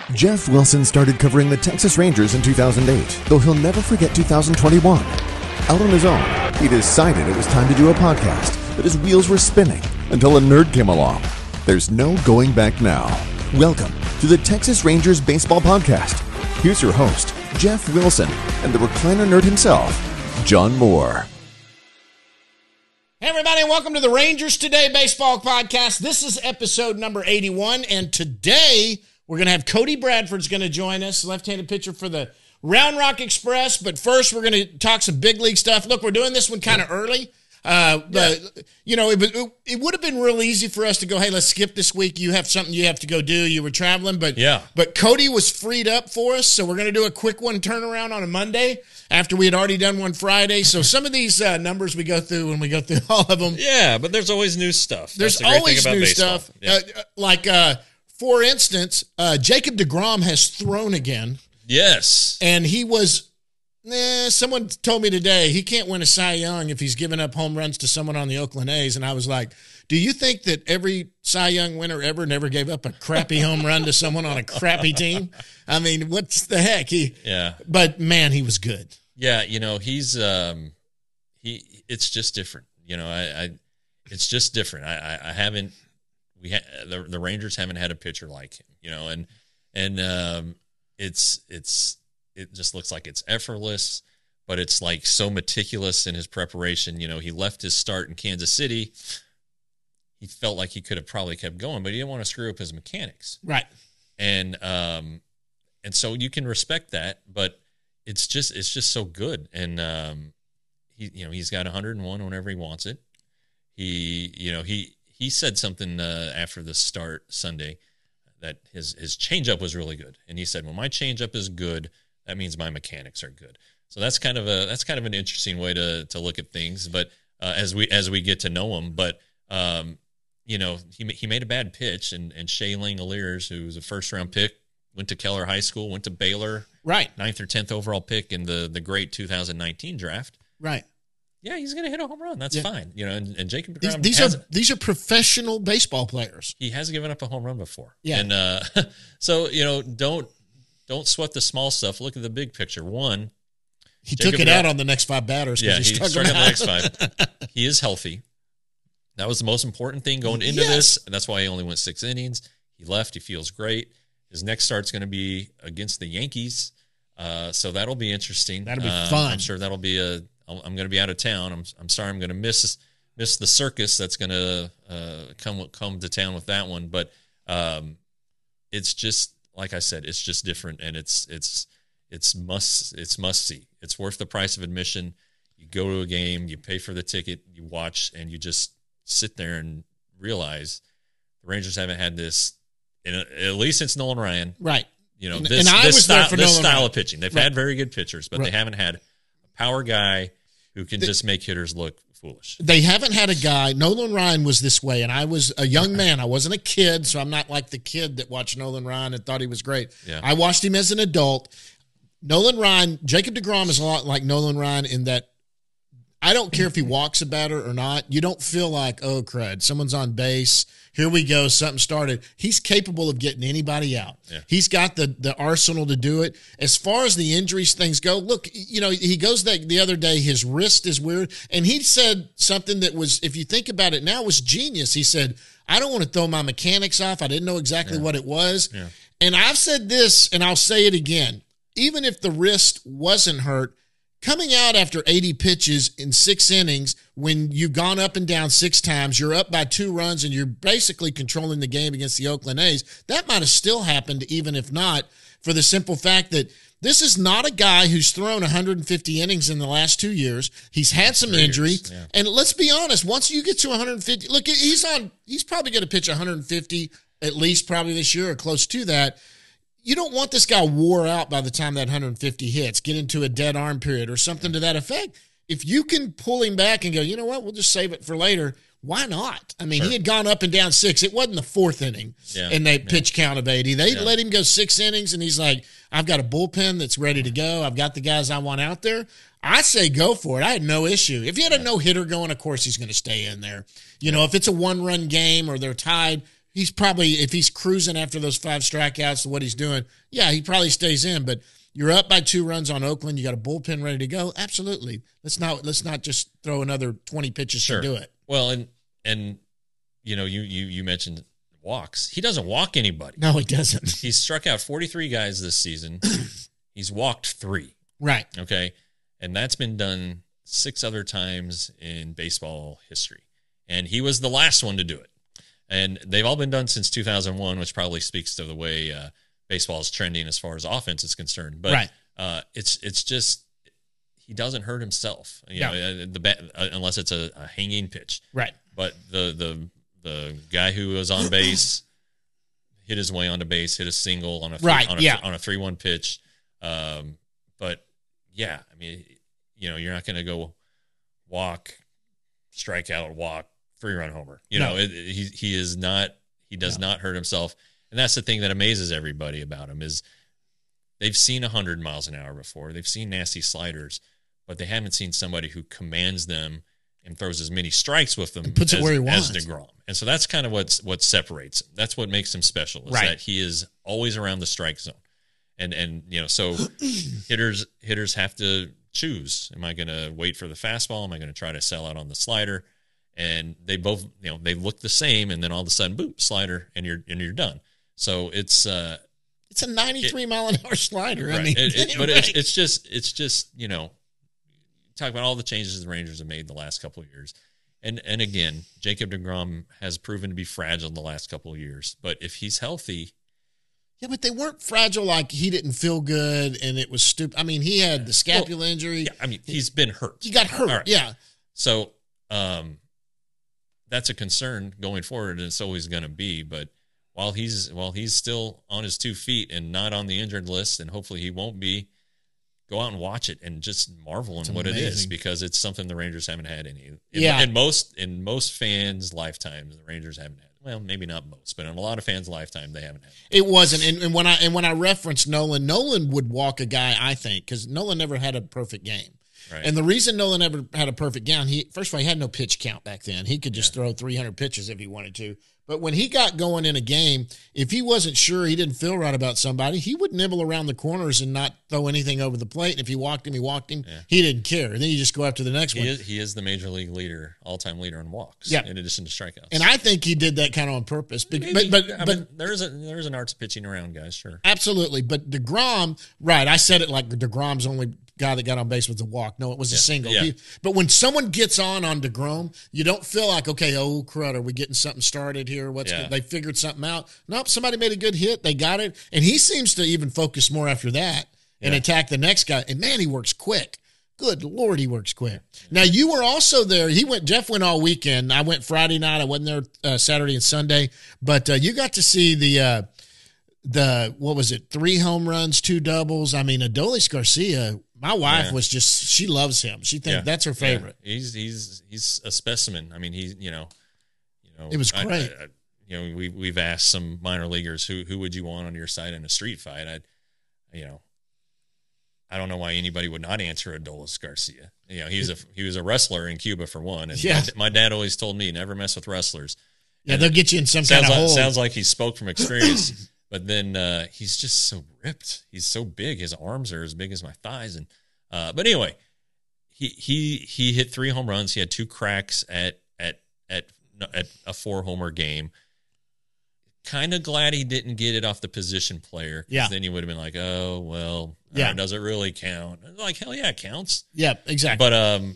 Jeff Wilson started covering the Texas Rangers in 2008, though he'll never forget 2021. Out on his own, he decided it was time to do a podcast, but his wheels were spinning until a nerd came along. There's no going back now. Welcome to the Texas Rangers Baseball Podcast. Here's your host, Jeff Wilson, and the recliner nerd himself, John Moore. Hey everybody, and welcome to the Rangers Today Baseball Podcast. This is episode number 81, and today we're going to have Cody Bradford's going to join us, left-handed pitcher for the Round Rock Express. But first, we're going to talk some big league stuff. Look, we're doing this one kind of early. But, you know, it would have been real easy for us to go, hey, let's skip this week. You have something you have to go do. You were traveling. But Cody was freed up for us, so we're going to do a quick one turnaround on a Monday after we had already done one Friday. So some of these numbers we go through when we go through all of them. Yeah, but there's always new stuff. There's always new stuff. Yeah. For instance, Jacob deGrom has thrown again. Yes. And he was, someone told me today he can't win a Cy Young if he's giving up home runs to someone on the Oakland A's. And I was like, do you think that every Cy Young winner ever never gave up a crappy home run to someone on a crappy team? I mean, what's the heck? But man, he was good. Yeah, you know, he's it's just different. You know, it's just different. I haven't. The Rangers haven't had a pitcher like him, you know, and it just looks like it's effortless, but it's like so meticulous in his preparation. You know, he left his start in Kansas City. He felt like he could have probably kept going, but he didn't want to screw up his mechanics. Right. And so you can respect that, but it's just so good. And he's got 101 whenever he wants it. He said something after the start Sunday that his changeup was really good, and he said, "When my changeup is good, that means my mechanics are good." So that's kind of an interesting way to look at things. But as we get to know him, but he made a bad pitch, and Shea Langoliers, who was a first round pick, went to Keller High School, went to Baylor, right, 9th or 10th overall pick in the great 2019 draft, right. Yeah, he's going to hit a home run. That's fine. You know, and Jacob deGrom these are professional baseball players. He has given up a home run before. Yeah. And so, you know, don't sweat the small stuff. Look at the big picture. One, he took it out on the next 5 batters. Yeah, he struck out the next 5. He is healthy. That was the most important thing going into this, and that's why he only went 6 innings. He left. He feels great. His next start's going to be against the Yankees, so that'll be interesting. That'll be fun. I'm sure that'll be I'm going to be out of town. I'm sorry. I'm going to miss the circus that's going to come to town with that one. But it's just, like I said, it's just different, and it's must see. It's worth the price of admission. You go to a game, you pay for the ticket, you watch, and you just sit there and realize the Rangers haven't had this at least since Nolan Ryan. Right. You know, this style of pitching. They've had very good pitchers, but they haven't had a power guy who can just make hitters look foolish. They haven't had a guy. Nolan Ryan was this way, and I was a young man. I wasn't a kid, so I'm not like the kid that watched Nolan Ryan and thought he was great. Yeah. I watched him as an adult. Jacob deGrom is a lot like Nolan Ryan in that I don't care if he walks a batter or not. You don't feel like, oh, crud, someone's on base. Here we go. Something started. He's capable of getting anybody out. Yeah. He's got the arsenal to do it. As far as the injuries things go, look, you know, he goes the other day, his wrist is weird. And he said something that was, if you think about it now, was genius. He said, I don't want to throw my mechanics off. I didn't know exactly what it was. Yeah. And I've said this, and I'll say it again. Even if the wrist wasn't hurt, coming out after 80 pitches in 6 innings, when you've gone up and down 6 times, you're up by 2 runs, and you're basically controlling the game against the Oakland A's, that might have still happened, even if not, for the simple fact that this is not a guy who's thrown 150 innings in the last 2 years. He's had some injury. Yeah. And let's be honest, once you get to 150, look, he's probably going to pitch 150 at least probably this year or close to that. You don't want this guy wore out by the time that 150 hits, get into a dead arm period or something to that effect. If you can pull him back and go, you know what, we'll just save it for later, why not? I mean, He had gone up and down 6. It wasn't the 4th inning, and they pitch count of 80. They let him go 6 innings, and he's like, I've got a bullpen that's ready to go. I've got the guys I want out there. I say go for it. I had no issue. If he had a no-hitter going, of course he's going to stay in there. You know, if it's a one-run game or they're tied, he's probably, if he's cruising after those 5 strikeouts, what he's doing, yeah, he probably stays in. But you're up by 2 runs on Oakland. You got a bullpen ready to go. Absolutely. Let's not just throw another 20 pitches to do it. Well, and you mentioned walks. He doesn't walk anybody. No, he doesn't. He's struck out 43 guys this season. He's walked 3. Right. Okay. And that's been done 6 other times in baseball history. And he was the last one to do it. And they've all been done since 2001, which probably speaks to the way baseball is trending as far as offense is concerned. But it's just he doesn't hurt himself, unless it's a hanging pitch. Right. But the guy who was on base hit his way onto base, hit a single on a 3-1 pitch. But yeah, I mean, you're not going to go walk, strike out, walk, 3-run homer. He is not. He does not hurt himself, and that's the thing that amazes everybody about him is they've seen 100 miles an hour before. They've seen nasty sliders, but they haven't seen somebody who commands them and throws as many strikes with them and puts it where he wants. As DeGrom. And so that's kind of what separates him. That's what makes him special, is that he is always around the strike zone. And so hitters have to choose. Am I going to wait for the fastball? Am I going to try to sell out on the slider? And they both, they look the same, and then all of a sudden, boom, slider, and you're done. So it's a 93 mile an hour slider. Right. I mean, it's just talk about all the changes the Rangers have made the last couple of years. And again, Jacob DeGrom has proven to be fragile in the last couple of years. But if he's healthy. Yeah, but they weren't fragile like he didn't feel good and it was stupid. I mean, he had the scapula injury. Yeah, I mean, he's been hurt. He got hurt, right. Yeah. So that's a concern going forward, and it's always going to be. But while he's still on his 2 feet and not on the injured list, and hopefully he won't be, go out and watch it and just marvel in what it is, because it's something the Rangers haven't had in most fans' lifetimes. The Rangers haven't had. Well, maybe not most, but in a lot of fans' lifetime, they haven't had it. It wasn't. And when I referenced Nolan would walk a guy, I think, because Nolan never had a perfect game. Right. And the reason Nolan never had a perfect game, first of all, he had no pitch count back then. He could just throw 300 pitches if he wanted to. But when he got going in a game, if he wasn't sure, he didn't feel right about somebody, he would nibble around the corners and not throw anything over the plate. And if he walked him, Yeah. He didn't care. And then you just go after the next one. He is the major league leader, all-time leader in walks, in addition to strikeouts. And I think he did that kind of on purpose. But there's an art to pitching around, guys, sure. Absolutely. But DeGrom, right, I said it like DeGrom's only guy that got on base was a walk. No, it was a single. Yeah. But when someone gets on DeGrom, you don't feel like, okay, oh, crud, are we getting something started here? They figured something out. Nope, somebody made a good hit. They got it. And he seems to even focus more after that and attack the next guy. And, man, he works quick. Good Lord, he works quick. Now, you were also there. Jeff went all weekend. I went Friday night. I wasn't there Saturday and Sunday. But you got to see the what was it, 3 home runs, 2 doubles. I mean, Adolis Garcia, my wife was just, she loves him. She thinks that's her favorite. Yeah. He's a specimen. I mean, it was great. We've asked some minor leaguers who would you want on your side in a street fight. I don't know why anybody would not answer Adolis Garcia. He was a wrestler in Cuba for one. And my dad always told me, never mess with wrestlers. Yeah, they'll get you in some kind of hole. Sounds like he spoke from experience. But then he's just so ripped. He's so big. His arms are as big as my thighs. And but anyway, he hit 3 home runs. He had 2 cracks at a 4-homer game. Kind of glad he didn't get it off the position player. Yeah. Then you would have been like, oh well, does it really count? Like, hell yeah, it counts. Yeah, exactly. But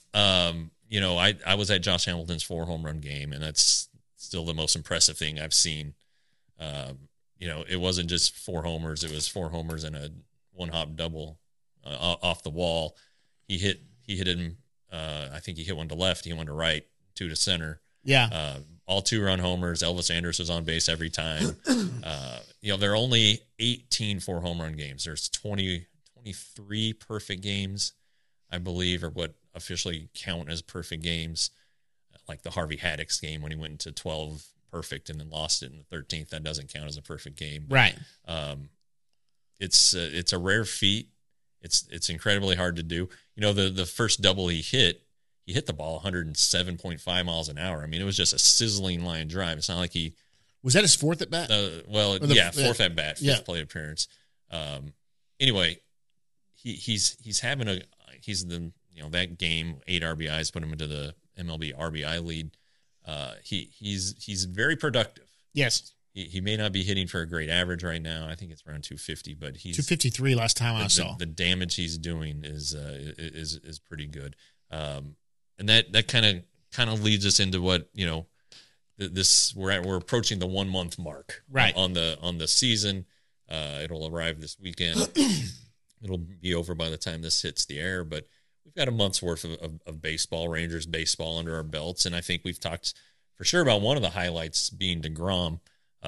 I was at Josh Hamilton's 4-home run game, and that's still the most impressive thing I've seen. It wasn't just 4 homers. It was 4 homers and a 1-hop double off the wall. He hit him. I think he hit one to left. He hit one to right, 2 to center. Yeah. All 2-run homers. Elvis Andrus was on base every time. There are only 18 4-home run games. There's 23 perfect games, I believe, or what officially count as perfect games. Like the Harvey Haddix game when he went into 12 perfect and then lost it in the 13th. That doesn't count as a perfect game. But, right. It's a rare feat. It's incredibly hard to do. The first double he hit the ball 107.5 miles an hour. I mean, it was just a sizzling line drive. It's not like he Was that his fourth at bat? Fourth at bat, fifth Yeah. plate appearance. Anyway, he's having that game, 8 RBIs put him into the MLB RBI lead. He's very productive. Yes. He may not be hitting for a great average right now. I think it's around 250, but he's 253 last time I saw. The damage he's doing is pretty good. And that kind of leads us into what, we're approaching the 1 month mark right on the season. It'll arrive this weekend. It'll be over by the time this hits the air, but we've got a month's worth of baseball, Rangers baseball under our belts. And I think we've talked for sure about one of the highlights being DeGrom.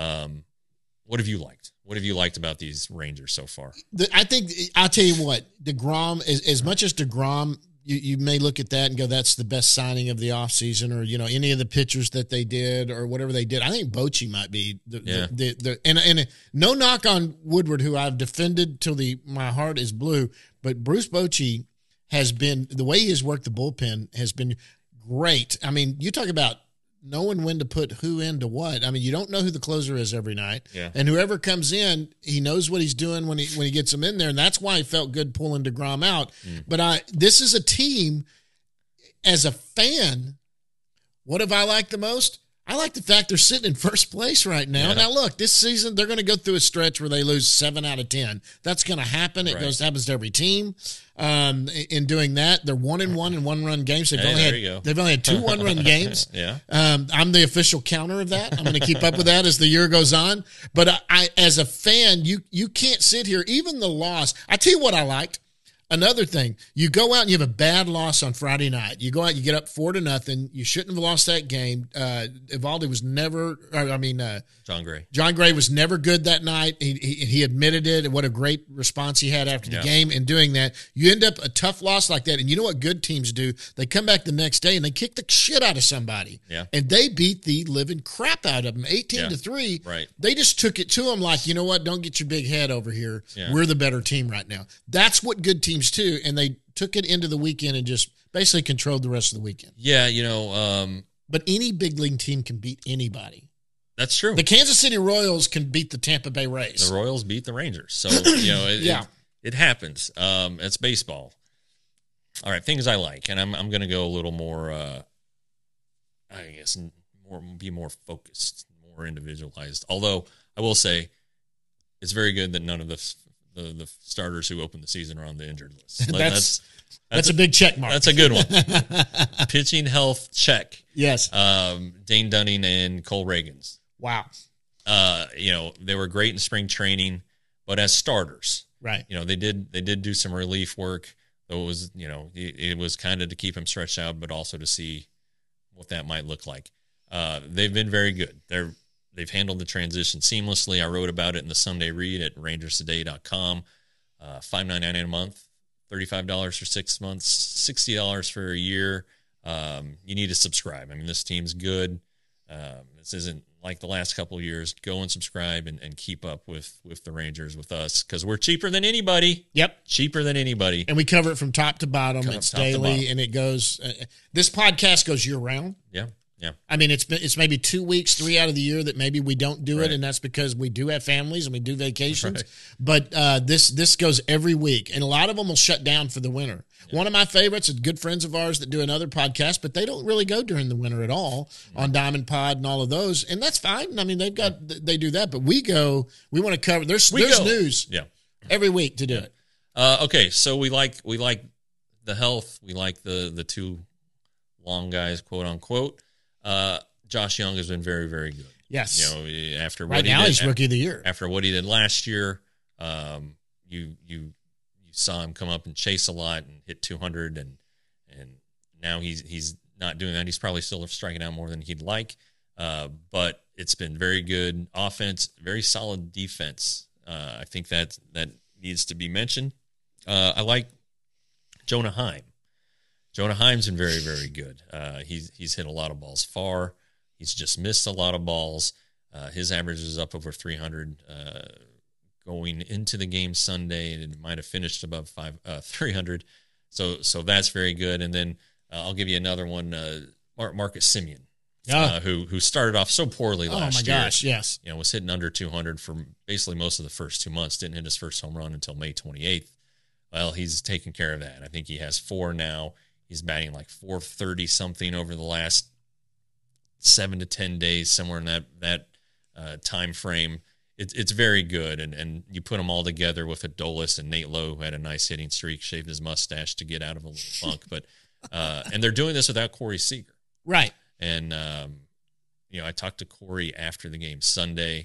What have you liked? What have you liked about these Rangers so far? I think I'll tell you what, DeGrom, as much as DeGrom, you may look at that and go, that's the best signing of the offseason, or any of the pitchers that they did or whatever they did. I think Bochy might be and no knock on Woodward, who I've defended till my heart is blue, but Bruce Bochy has been, the way he has worked the bullpen has been great. I mean, you talk about knowing when to put who into what. I mean, you don't know who the closer is every night. Yeah. And whoever comes in, he knows what he's doing when he gets them in there. And that's why he felt good pulling DeGrom out. But this is a team, as a fan, what have I liked the most? I like the fact they're sitting in first place right now. Yeah. Now, look, this season they're going to go through a stretch where they lose 7 out of 10. That's going to happen. It happens to every team. In doing that, they're 1-1 in 1-run games. They've only had 2 1-run games. Yeah. I'm the official counter of that. I'm going to keep up with that as the year goes on. But I as a fan, you can't sit here. Even the loss. I tell you what I liked. Another thing, you go out and you have a bad loss on Friday night. You go out, you get up 4-0. You shouldn't have lost that game. Evaldi was never, John Gray. John Gray was never good that night. He admitted it, and what a great response he had after the game. And doing that, you end up a tough loss like that. And you know what good teams do? They come back the next day and they kick the shit out of somebody. Yeah. And they beat the living crap out of them, 18-3. Right. They just took it to them like, you know what? Don't get your big head over here. Yeah. We're the better team right now. That's what good teams do. And they took it into the weekend and just basically controlled the rest of the weekend. Yeah, but any big league team can beat anybody. That's true. The Kansas City Royals can beat the Tampa Bay Rays. The Royals beat the Rangers. So, it happens. It's baseball. All right, things I like, and I'm going to go a little more, be more focused, more individualized. Although I will say, it's very good that none of the starters who opened the season are on the injured list. That's a big check mark. That's a good one. Pitching health check. Yes. Dane Dunning and Cole Reagans. Wow. They were great in spring training, but as starters, right? They did do some relief work. Though it was kind of to keep them stretched out, but also to see what that might look like. They've been very good. They've handled the transition seamlessly. I wrote about it in the Sunday Read at rangerstoday.com. $5.99 a month, $35 for 6 months, $60 for a year. You need to subscribe. I mean, this team's good. This isn't like the last couple of years. Go and subscribe and keep up with the Rangers with us, because we're cheaper than anybody. Yep. Cheaper than anybody. And we cover it from top to bottom. It's daily, and it goes. This podcast goes year round. Yeah. Yeah. I mean, it's maybe 2 weeks, 3 out of the year that maybe we don't do it, and that's because we do have families and we do vacations. Right. But this goes every week, and a lot of them will shut down for the winter. Yeah. One of my favorites is good friends of ours that do another podcast, but they don't really go during the winter at all on Diamond Pod and all of those, and that's fine. I mean, they do that, but we want to cover. There's news every week to do it. Okay, so we like the health. We like the two long guys, quote unquote. Josh Young has been very, very good. Yes. After right now he's rookie of the year. After what he did last year, you saw him come up and chase a lot and hit 200, and now he's not doing that. He's probably still striking out more than he'd like, but it's been very good offense, very solid defense. I think that needs to be mentioned. I like Jonah Heim. Jonah Heim's been very, very good. He's hit a lot of balls far. He's just missed a lot of balls. His average is up over 300 going into the game Sunday, and it might have finished above 300. So that's very good. And then I'll give you another one, Marcus Semien. who started off so poorly last year. Oh my gosh, yes. Was hitting under 200 for basically most of the first 2 months. Didn't hit his first home run until May 28th. Well, he's taken care of that. I think he has 4 now. He's batting like 430 something over the last 7 to 10 days, somewhere in that time frame. It's very good, and you put them all together with Adolis and Nate Lowe, who had a nice hitting streak, shaved his mustache to get out of a little funk. But and they're doing this without Corey Seager, right? And I talked to Corey after the game Sunday.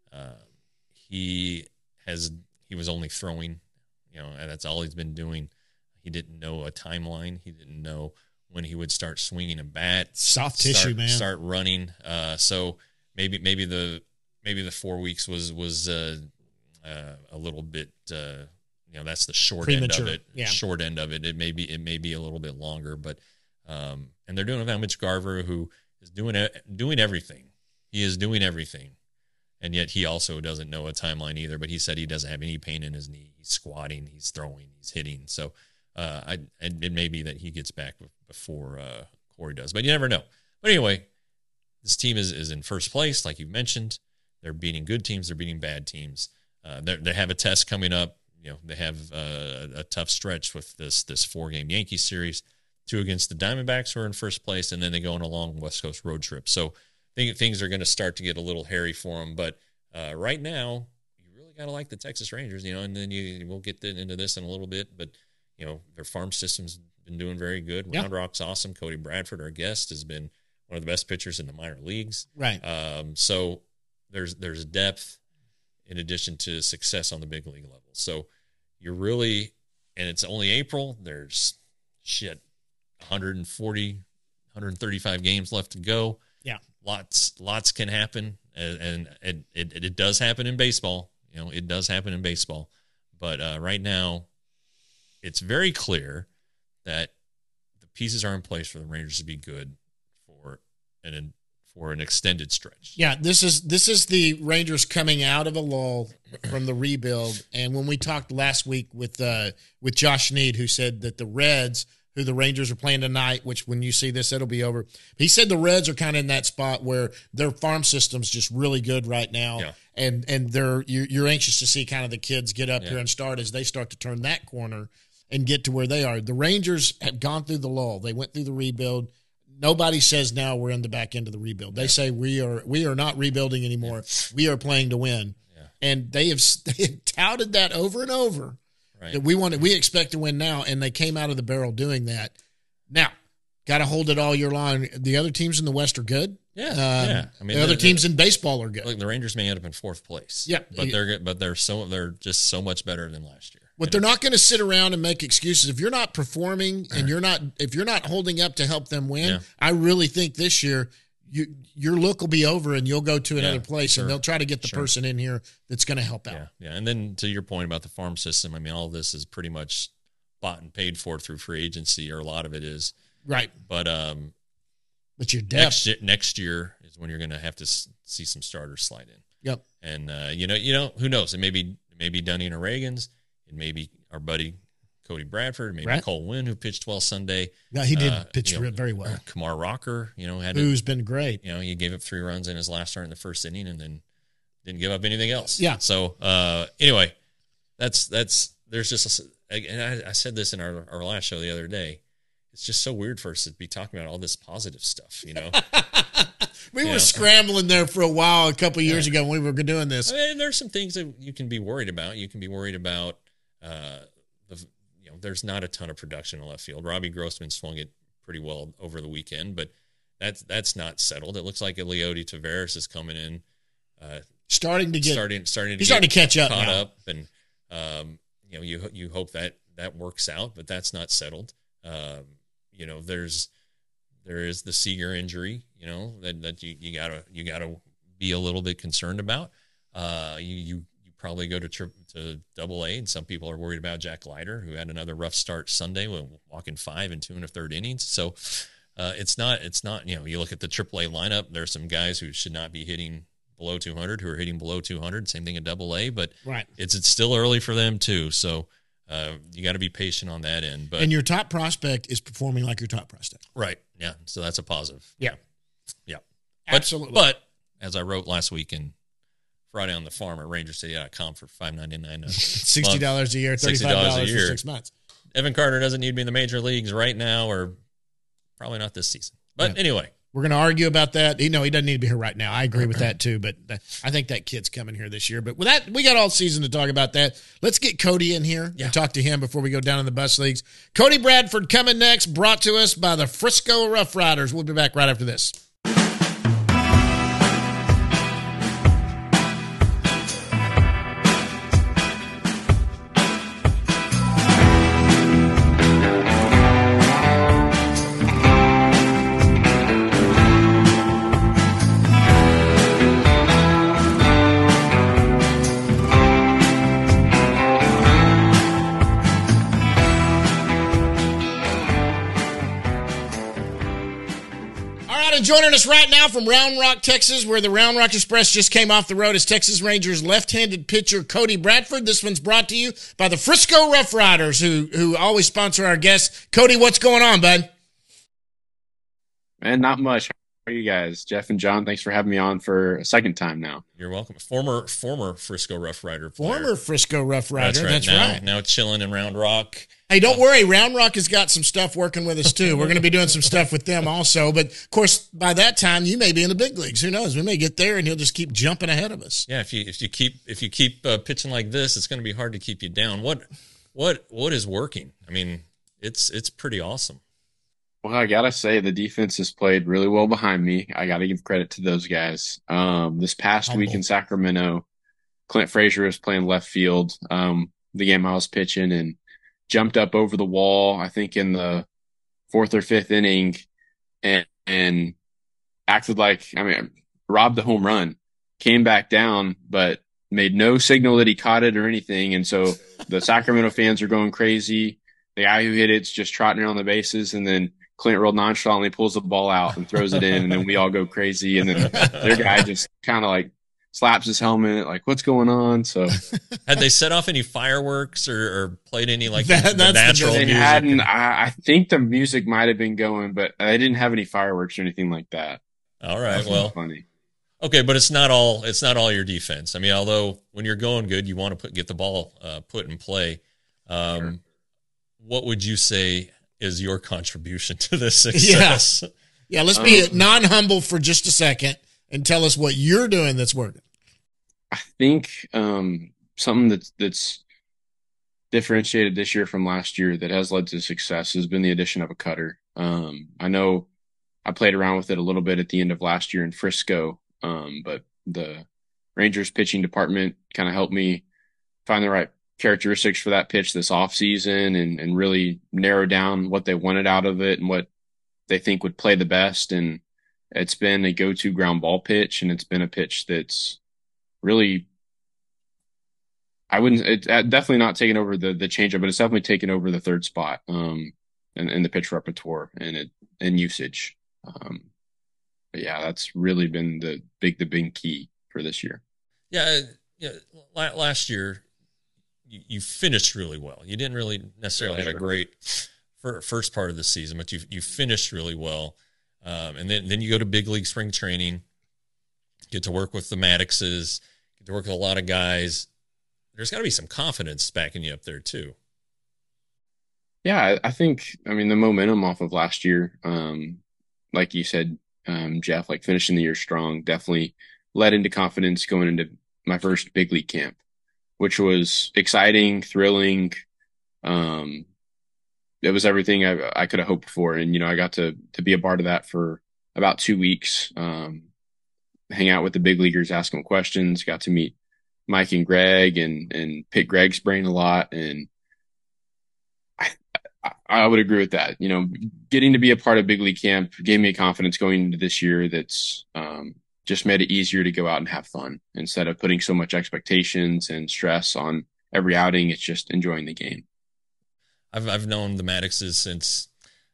He was only throwing, and that's all he's been doing. He didn't know a timeline. He didn't know when he would start swinging a bat. Soft tissue, man. Start running. So maybe the 4 weeks was a little bit. That's the short premature end of it. Yeah. Short end of it. It may be a little bit longer, but and they're doing it without Mitch Garver, who is doing everything. He is doing everything, and yet he also doesn't know a timeline either. But he said he doesn't have any pain in his knee. He's squatting. He's throwing. He's hitting. So it may be that he gets back before Corey does, but you never know. But anyway, this team is in first place, like you mentioned. They're beating good teams. They're beating bad teams. They have a test coming up. They have a tough stretch with this 4-game Yankees series, 2 against the Diamondbacks, who are in first place, and then they go on a long West Coast road trip. So I think things are going to start to get a little hairy for them. But right now, you really got to like the Texas Rangers, and then we'll get into this in a little bit. But, their farm system's been doing very good. Yeah. Round Rock's awesome. Cody Bradford, our guest, has been one of the best pitchers in the minor leagues. Right. So there's depth in addition to success on the big league level. So you're really, and it's only April. There's 140, 135 games left to go. Yeah. Lots can happen. And it does happen in baseball. It does happen in baseball. But right now, it's very clear that the pieces are in place for the Rangers to be good for an extended stretch. Yeah, this is the Rangers coming out of a lull from the rebuild. And when we talked last week with Josh Need, who said that the Reds, who the Rangers are playing tonight, which when you see this, it'll be over. He said the Reds are kind of in that spot where their farm system's just really good right now. Yeah. And you're anxious to see kind of the kids get up here and start as they start to turn that corner and get to where they are. The Rangers have gone through the lull. They went through the rebuild. Nobody says now we're in the back end of the rebuild. They say we are not rebuilding anymore. We are playing to win. Yeah. And they have touted that over and over. Right. That we expect to win now, and they came out of the barrel doing that. Now, got to hold it all year long. The other teams in the West are good. Yeah, I mean, the other teams in baseball are good. Look, the Rangers may end up in 4th place. Yeah, but they're just so much better than last year. But they're not going to sit around and make excuses. If you're not performing and if you're not holding up to help them win, I really think this year your look will be over and you'll go to another place and they'll try to get the person in here that's going to help out. Yeah. And then to your point about the farm system, I mean, all of this is pretty much bought and paid for through free agency, or a lot of it is. Right. But your depth next year is when you're going to have to see some starters slide in. Yep. And who knows? It may be Dunning or Reagan's. It may be our buddy Cody Bradford, maybe Cole Winn, who pitched well Sunday. Yeah, he did pitch very well. Kamar Rocker, who's been great. He gave up 3 runs in his last start in the first inning, and then didn't give up anything else. Yeah. So anyway, that's there's just and I said this in our last show the other day. It's just so weird for us to be talking about all this positive stuff, We were scrambling there for a while a couple of years ago when we were doing this. I mean, there's some things that you can be worried about. You can be worried about there's not a ton of production in left field. Robbie Grossman swung it pretty well over the weekend, but that's not settled. It looks like Leody Taveras is coming in, starting to catch up. Caught now. up, and you hope that works out, but that's not settled. There is the Seager injury, that you gotta be a little bit concerned about. You probably go to Double-A, and some people are worried about Jack Leiter, who had another rough start Sunday, walking 5 and 2 1/3 innings. So it's not. You look at the Triple-A lineup. There are some guys who should not be hitting below 200 who are hitting below 200. Same thing at Double-A, but it's still early for them too. So you got to be patient on that end. But and your top prospect is performing like your top prospect. Right. Yeah. So that's a positive. Yeah. Yeah. Absolutely. But as I wrote last week in Friday on the Farm at RangerCity.com for $5.99 $60 a year, $35 a year. for 6 months. Evan Carter doesn't need to be in the major leagues right now, or probably not this season. But anyway. We're going to argue about that. He doesn't need to be here right now. I agree with that too, but I think that kid's coming here this year. But with that, we got all season to talk about that. Let's get Cody in here and talk to him before we go down in the bus leagues. Cody Bradford coming next, brought to us by the Frisco Rough Riders. We'll be back right after this. Joining us right now from Round Rock, Texas, where the Round Rock Express just came off the road, is Texas Rangers left-handed pitcher Cody Bradford. This one's brought to you by the Frisco Rough Riders, who always sponsor our guests. Cody, what's going on, bud? Man, not much. How are you guys? Jeff and John, thanks for having me on for a second time now. You're welcome. Former Frisco Rough Rider player. Former Frisco Rough Rider. That's right. Now chilling in Round Rock. Hey, don't worry. Round Rock has got some stuff working with us, too. We're going to be doing some stuff with them also. But, of course, by that time, you may be in the big leagues. Who knows? We may get there, and he'll just keep jumping ahead of us. Yeah, if you keep pitching like this, it's going to be hard to keep you down. What is working? I mean, it's pretty awesome. Well, I got to say, the defense has played really well behind me. I got to give credit to those guys. This past week in Sacramento, Clint Frazier was playing left field, the game I was pitching, and jumped up over the wall, I think in the 4th or 5th inning, and acted like, robbed the home run, came back down, but made no signal that he caught it or anything. And so the Sacramento fans are going crazy. The guy who hit it's just trotting around the bases, and then Clint real nonchalantly pulls the ball out and throws it in, and then we all go crazy. And then their guy just kind of like slaps his helmet, like, what's going on? So had they set off any fireworks or played any like the natural they music? Hadn't. I think the music might have been going, but they didn't have any fireworks or anything like that. All right, well, funny. Okay, but it's not all your defense. I mean, although when you're going good, you want to get the ball put in play. Sure. What would you say is your contribution to this success? Yeah, let's be non-humble for just a second and tell us what you're doing that's working. I think something that's differentiated this year from last year that has led to success has been the addition of a cutter. I know I played around with it a little bit at the end of last year in Frisco, but the Rangers pitching department kind of helped me find the right characteristics for that pitch this offseason and really narrow down what they wanted out of it and what they think would play the best. And it's been a go-to ground ball pitch, and it's been a pitch that's really, definitely not taken over the changeup, but it's definitely taken over the third spot in the pitch repertoire and usage. But yeah, that's really been the big key for this year. Yeah. Last year, you finished really well. You didn't really necessarily have a great first part of the season, but you finished really well. And then you go to big league spring training, get to work with the Maddoxes, get to work with a lot of guys. There's got to be some confidence backing you up there too. Yeah, I think, the momentum off of last year, like you said, Jeff, like finishing the year strong, definitely led into confidence going into my first big league camp, which was exciting, thrilling. It was everything I could have hoped for. And, I got to be a part of that for about 2 weeks, hang out with the big leaguers, ask them questions, got to meet Mike and Greg and pick Greg's brain a lot. And I would agree with that. Getting to be a part of big league camp gave me confidence going into this year that's just made it easier to go out and have fun instead of putting so much expectations and stress on every outing. It's just enjoying the game. I've known the Maddoxes since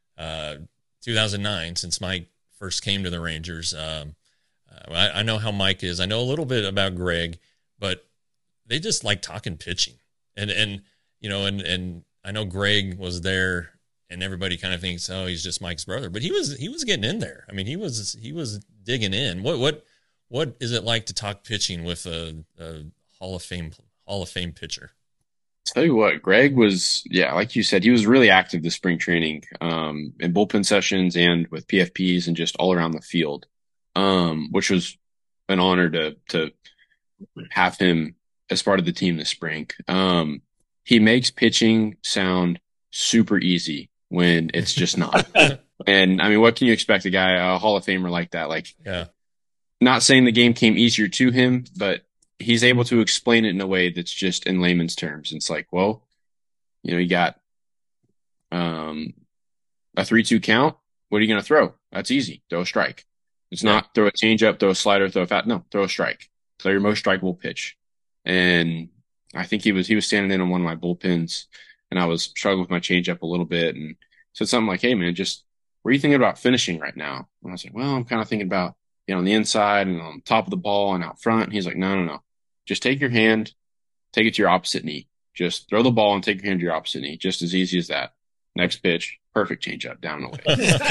2009, since Mike first came to the Rangers. I know how Mike is. I know a little bit about Greg, but they just like talking pitching. And I know Greg was there and everybody kind of thinks, oh, he's just Mike's brother, but he was getting in there. I mean, he was digging in. What is it like to talk pitching with a Hall of Fame pitcher? Tell you what, Greg was, yeah, like you said, he was really active this spring training, in bullpen sessions and with PFPs and just all around the field, which was an honor to have him as part of the team this spring. He makes pitching sound super easy when it's just not. And I mean, what can you expect a Hall of Famer like that? Like, yeah, not saying the game came easier to him, but he's able to explain it in a way that's just in layman's terms. It's like, well, you got a 3-2 count. What are you going to throw? That's easy. Throw a strike. It's not throw a changeup, throw a slider, throw a fat. No, throw a strike. Throw your most strikeable pitch. And I think he was standing in on one of my bullpens, and I was struggling with my changeup a little bit, and said something like, "Hey man, just what are you thinking about finishing right now?" And I was like, "Well, I'm kind of thinking about on the inside and on top of the ball and out front." And he's like, "No. Just take your hand, take it to your opposite knee. Just throw the ball and take your hand to your opposite knee. Just as easy as that. Next pitch, perfect changeup down and away."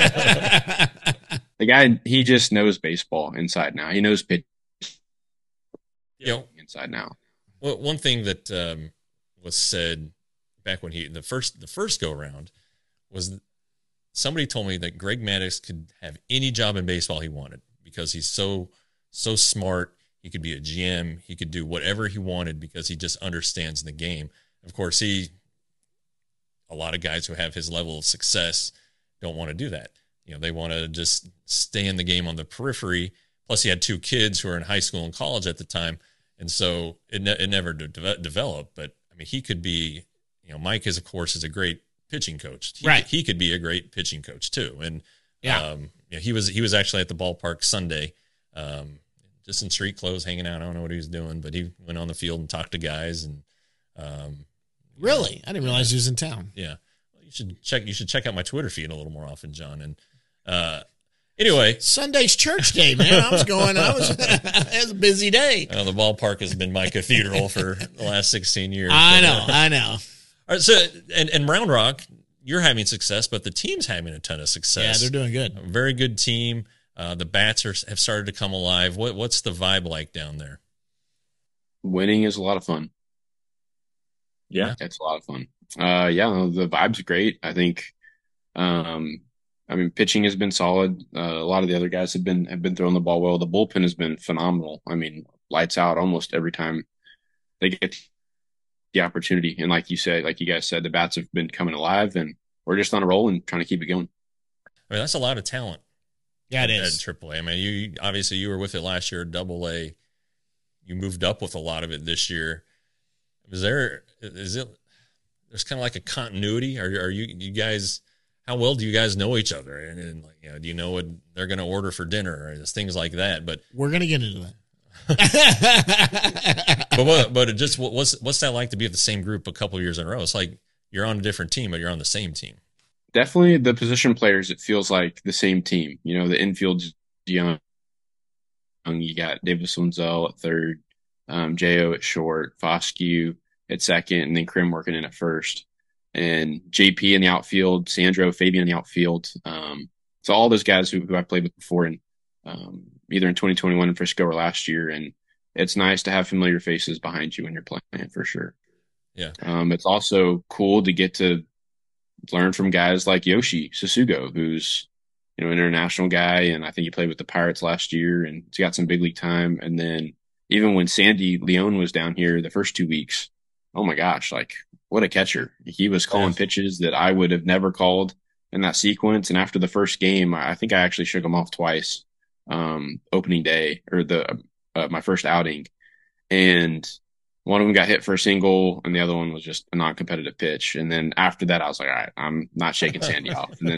The guy, he just knows baseball inside now. He knows pitch inside now. Well, one thing that was said back when the first go around was somebody told me that Greg Maddux could have any job in baseball he wanted because he's so smart. He could be a GM. He could do whatever he wanted because he just understands the game. Of course, a lot of guys who have his level of success don't want to do that. They want to just stay in the game on the periphery. Plus, he had 2 kids who were in high school and college at the time. And so it never developed. But, I mean, he could be, Mike is, of course, is a great pitching coach. He could be a great pitching coach, too. And he was actually at the ballpark Sunday, just in street clothes, hanging out. I don't know what he was doing, but he went on the field and talked to guys. And really? I didn't realize he was in town. Yeah. You should check out my Twitter feed a little more often, John. And anyway, Sunday's church day, man. It was a busy day. The ballpark has been my cathedral for the last 16 years. I know. All right, so and Round Rock, you're having success, but the team's having a ton of success. Yeah, they're doing good. A very good team. The bats have started to come alive. What's the vibe like down there? Winning is a lot of fun. Yeah, it's a lot of fun. The vibe's great. I think, pitching has been solid. A lot of the other guys have been throwing the ball well. The bullpen has been phenomenal. I mean, lights out almost every time they get the opportunity. And like you guys said, the bats have been coming alive, and we're just on a roll and trying to keep it going. I mean, that's a lot of talent. Yeah, it is. At AAA. I mean, you were with it last year at AA. You moved up with a lot of it this year. There's kind of like a continuity? Are you guys, how well do you guys know each other? And do you know what they're going to order for dinner or things like that? But we're going to get into that. but what's that like to be with the same group a couple of years in a row? It's like you're on a different team, but you're on the same team. Definitely the position players, it feels like the same team. The infield's young. You got Davis Wenzel at third, J.O. at short, Foscue at second, and then Krim working in at first. And JP in the outfield, Sandro, Fabian in the outfield. So all those guys who I played with before, and either in 2021 in Frisco or last year. And it's nice to have familiar faces behind you when you're playing, for sure. Yeah. It's also cool to get to learn from guys like Yoshi Sasugo, who's an international guy, and I think he played with the Pirates last year, and he's got some big league time. And then even when Sandy Leon was down here the first 2 weeks, oh my gosh, like what a catcher. He was calling pitches that I would have never called in that sequence. And after the first game, I think I actually shook him off twice, opening day or my first outing. And one of them got hit for a single, and the other one was just a non-competitive pitch. And then after that, I was like, all right, I'm not shaking Sandy off. And then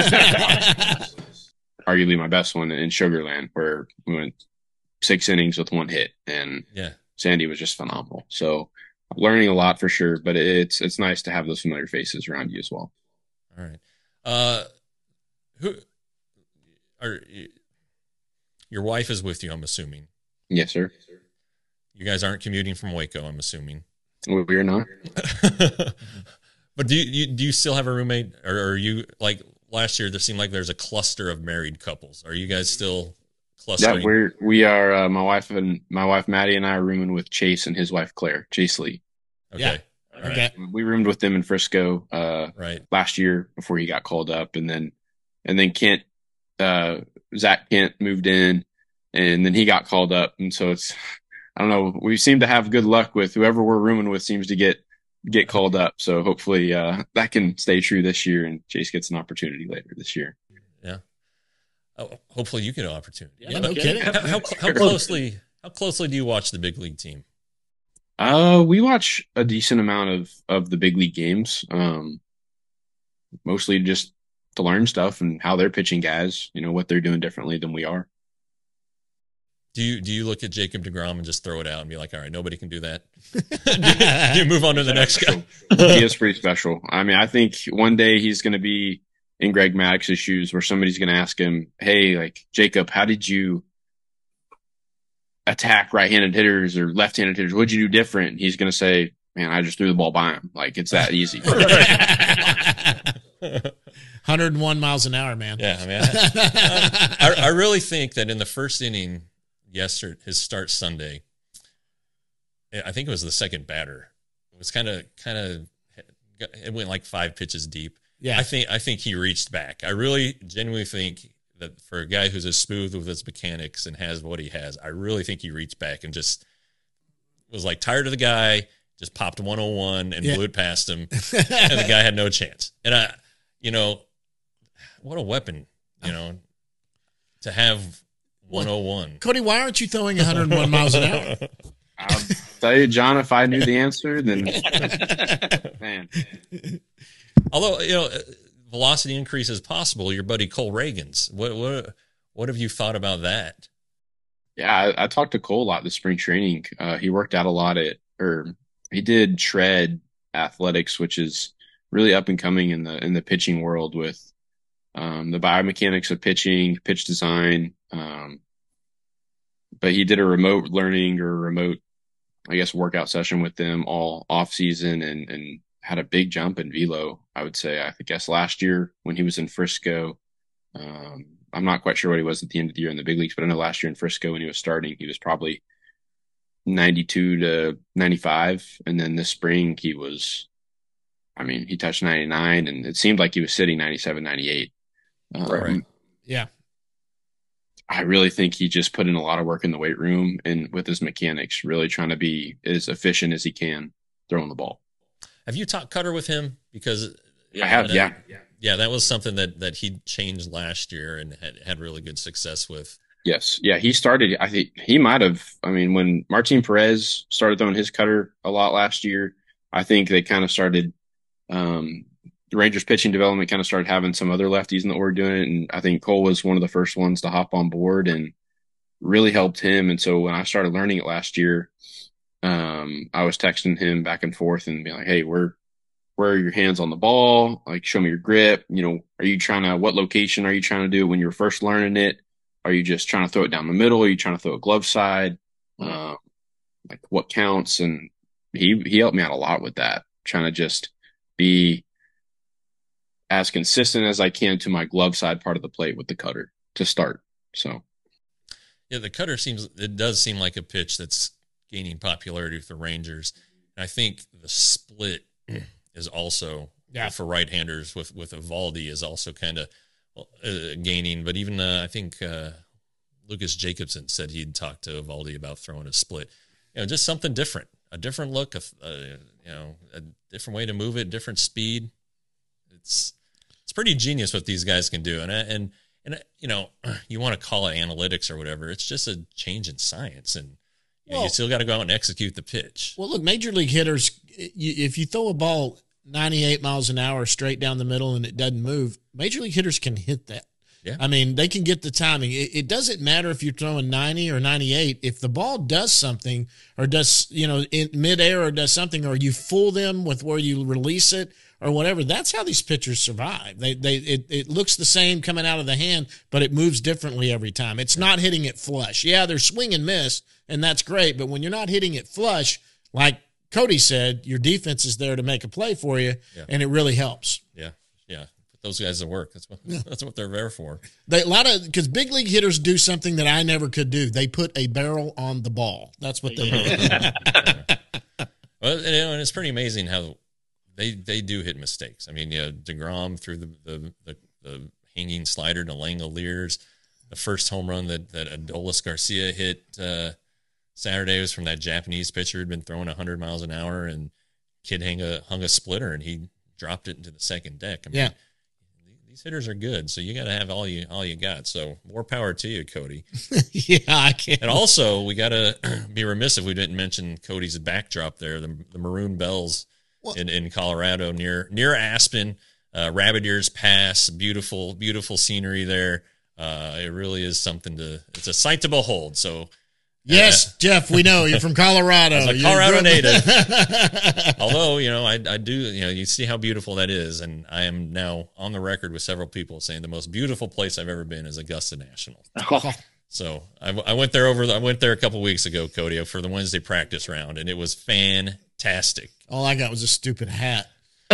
arguably my best one in Sugarland, where we went 6 innings with 1 hit, and Sandy was just phenomenal. So I'm learning a lot for sure, but it's nice to have those familiar faces around you as well. All right. Your wife is with you, I'm assuming. Yes, sir. You guys aren't commuting from Waco, I'm assuming. We're not. But do you still have a roommate, or are you like last year? There seemed like there's a cluster of married couples. Are you guys still clustering? Yeah, we are. My wife Maddie and I are rooming with Chase and his wife Claire, Chase Lee. Okay. Yeah. All Okay. right. We roomed with them in Frisco Right. last year before he got called up, and then Kent, Zach Kent moved in, and then he got called up, and so I don't know. We seem to have good luck with whoever we're rooming with seems to get called up. So hopefully that can stay true this year, and Chase gets an opportunity later this year. Yeah. Oh, hopefully you get an opportunity. Yeah, no kidding. How closely do you watch the big league team? We watch a decent amount of the big league games. Mostly just to learn stuff and how they're pitching guys, what they're doing differently than we are. Do you look at Jacob deGrom and just throw it out and be like, all right, nobody can do that? do you move on to the next guy? He is pretty special. I mean, I think one day he's going to be in Greg Maddox's shoes where somebody's going to ask him, hey, like, Jacob, how did you attack right-handed hitters or left-handed hitters? What'd you do different? And he's going to say, man, I just threw the ball by him. Like, it's that easy. 101 miles an hour, man. Yeah, I mean, I really think that in the first inning yesterday, his start Sunday, I think it was the second batter. It was kind of it went like 5 pitches deep. Yeah. I think he reached back. I really genuinely think that for a guy who's as smooth with his mechanics and has what he has, I really think he reached back and just was like tired of the guy, just popped 101 and blew it past him, and the guy had no chance. And what a weapon, to have 101. Cody, why aren't you throwing 101 miles an hour? I'll tell you, John, if I knew the answer, then man. Although, velocity increase is possible, your buddy Cole Reagans. What have you thought about that? Yeah, I talked to Cole a lot this spring training. He worked out a lot he did shred athletics, which is really up and coming in the pitching world with the biomechanics of pitching, pitch design. But he did a remote learning or remote, I guess, workout session with them all off season and had a big jump in velo, I would say. I guess last year when he was in Frisco, I'm not quite sure what he was at the end of the year in the big leagues, but I know last year in Frisco when he was starting, he was probably 92 to 95. And then this spring he touched 99 and it seemed like he was sitting 97, 98. Right. Yeah. I really think he just put in a lot of work in the weight room and with his mechanics, really trying to be as efficient as he can throwing the ball. Have you talked cutter with him? Because I have, yeah. Yeah, that was something that he changed last year and had really good success with. Yes. Yeah, he started, I think he might have, when Martin Perez started throwing his cutter a lot last year, I think they kind of started, the Rangers pitching development kind of started having some other lefties in the order doing it. And I think Cole was one of the first ones to hop on board and really helped him. And so when I started learning it last year, I was texting him back and forth and being like, hey, where are your hands on the ball? Like, show me your grip. What location are you trying to do when you're first learning it? Are you just trying to throw it down the middle? Are you trying to throw a glove side? Like what counts? And he helped me out a lot with that, trying to just be as consistent as I can to my glove side part of the plate with the cutter to start. So, yeah, the cutter does seem like a pitch that's gaining popularity with the Rangers. And I think the split is also for right-handers with Eovaldi is also kind of gaining. But even I think Lucas Jacobson said he'd talked to Eovaldi about throwing a split. Just something different, a different look, a different way to move it, different speed. It's pretty genius what these guys can do. And you want to call it analytics or whatever. It's just a change in science. And you still got to go out and execute the pitch. Well, look, major league hitters, if you throw a ball 98 miles an hour straight down the middle and it doesn't move, major league hitters can hit that. Yeah. They can get the timing. It doesn't matter if you're throwing 90 or 98. If the ball does something or does, in midair or does something, or you fool them with where you release it or whatever, that's how these pitchers survive. It looks the same coming out of the hand, but it moves differently every time. It's not hitting it flush. Yeah, they're swing and miss, and that's great. But when you're not hitting it flush, like Cody said, your defense is there to make a play for you, and it really helps. Yeah. Put those guys to work. That's what they're there for. Because big league hitters do something that I never could do. They put a barrel on the ball. That's what they do. Well, and it's pretty amazing how they do hit mistakes. I mean, DeGrom threw the hanging slider to Langoliers. The first home run that Adolis Garcia hit Saturday was from that Japanese pitcher who'd been throwing 100 miles an hour, and kid hung a splitter, and he dropped it into the second deck. I mean, these hitters are good, so you got to have all you got. So more power to you, Cody. Yeah, I can't. And also, we got to be remiss if we didn't mention Cody's backdrop there, the Maroon Bells in Colorado near Aspen, Rabbit Ears Pass, beautiful scenery there. It really is it's a sight to behold. So. Yes, Jeff, we know you're from Colorado. As a Colorado native. Although, I do, you see how beautiful that is. And I am now on the record with several people saying the most beautiful place I've ever been is Augusta National. So I went there a couple weeks ago, Cody, for the Wednesday practice round, and it was fantastic. All I got was a stupid hat.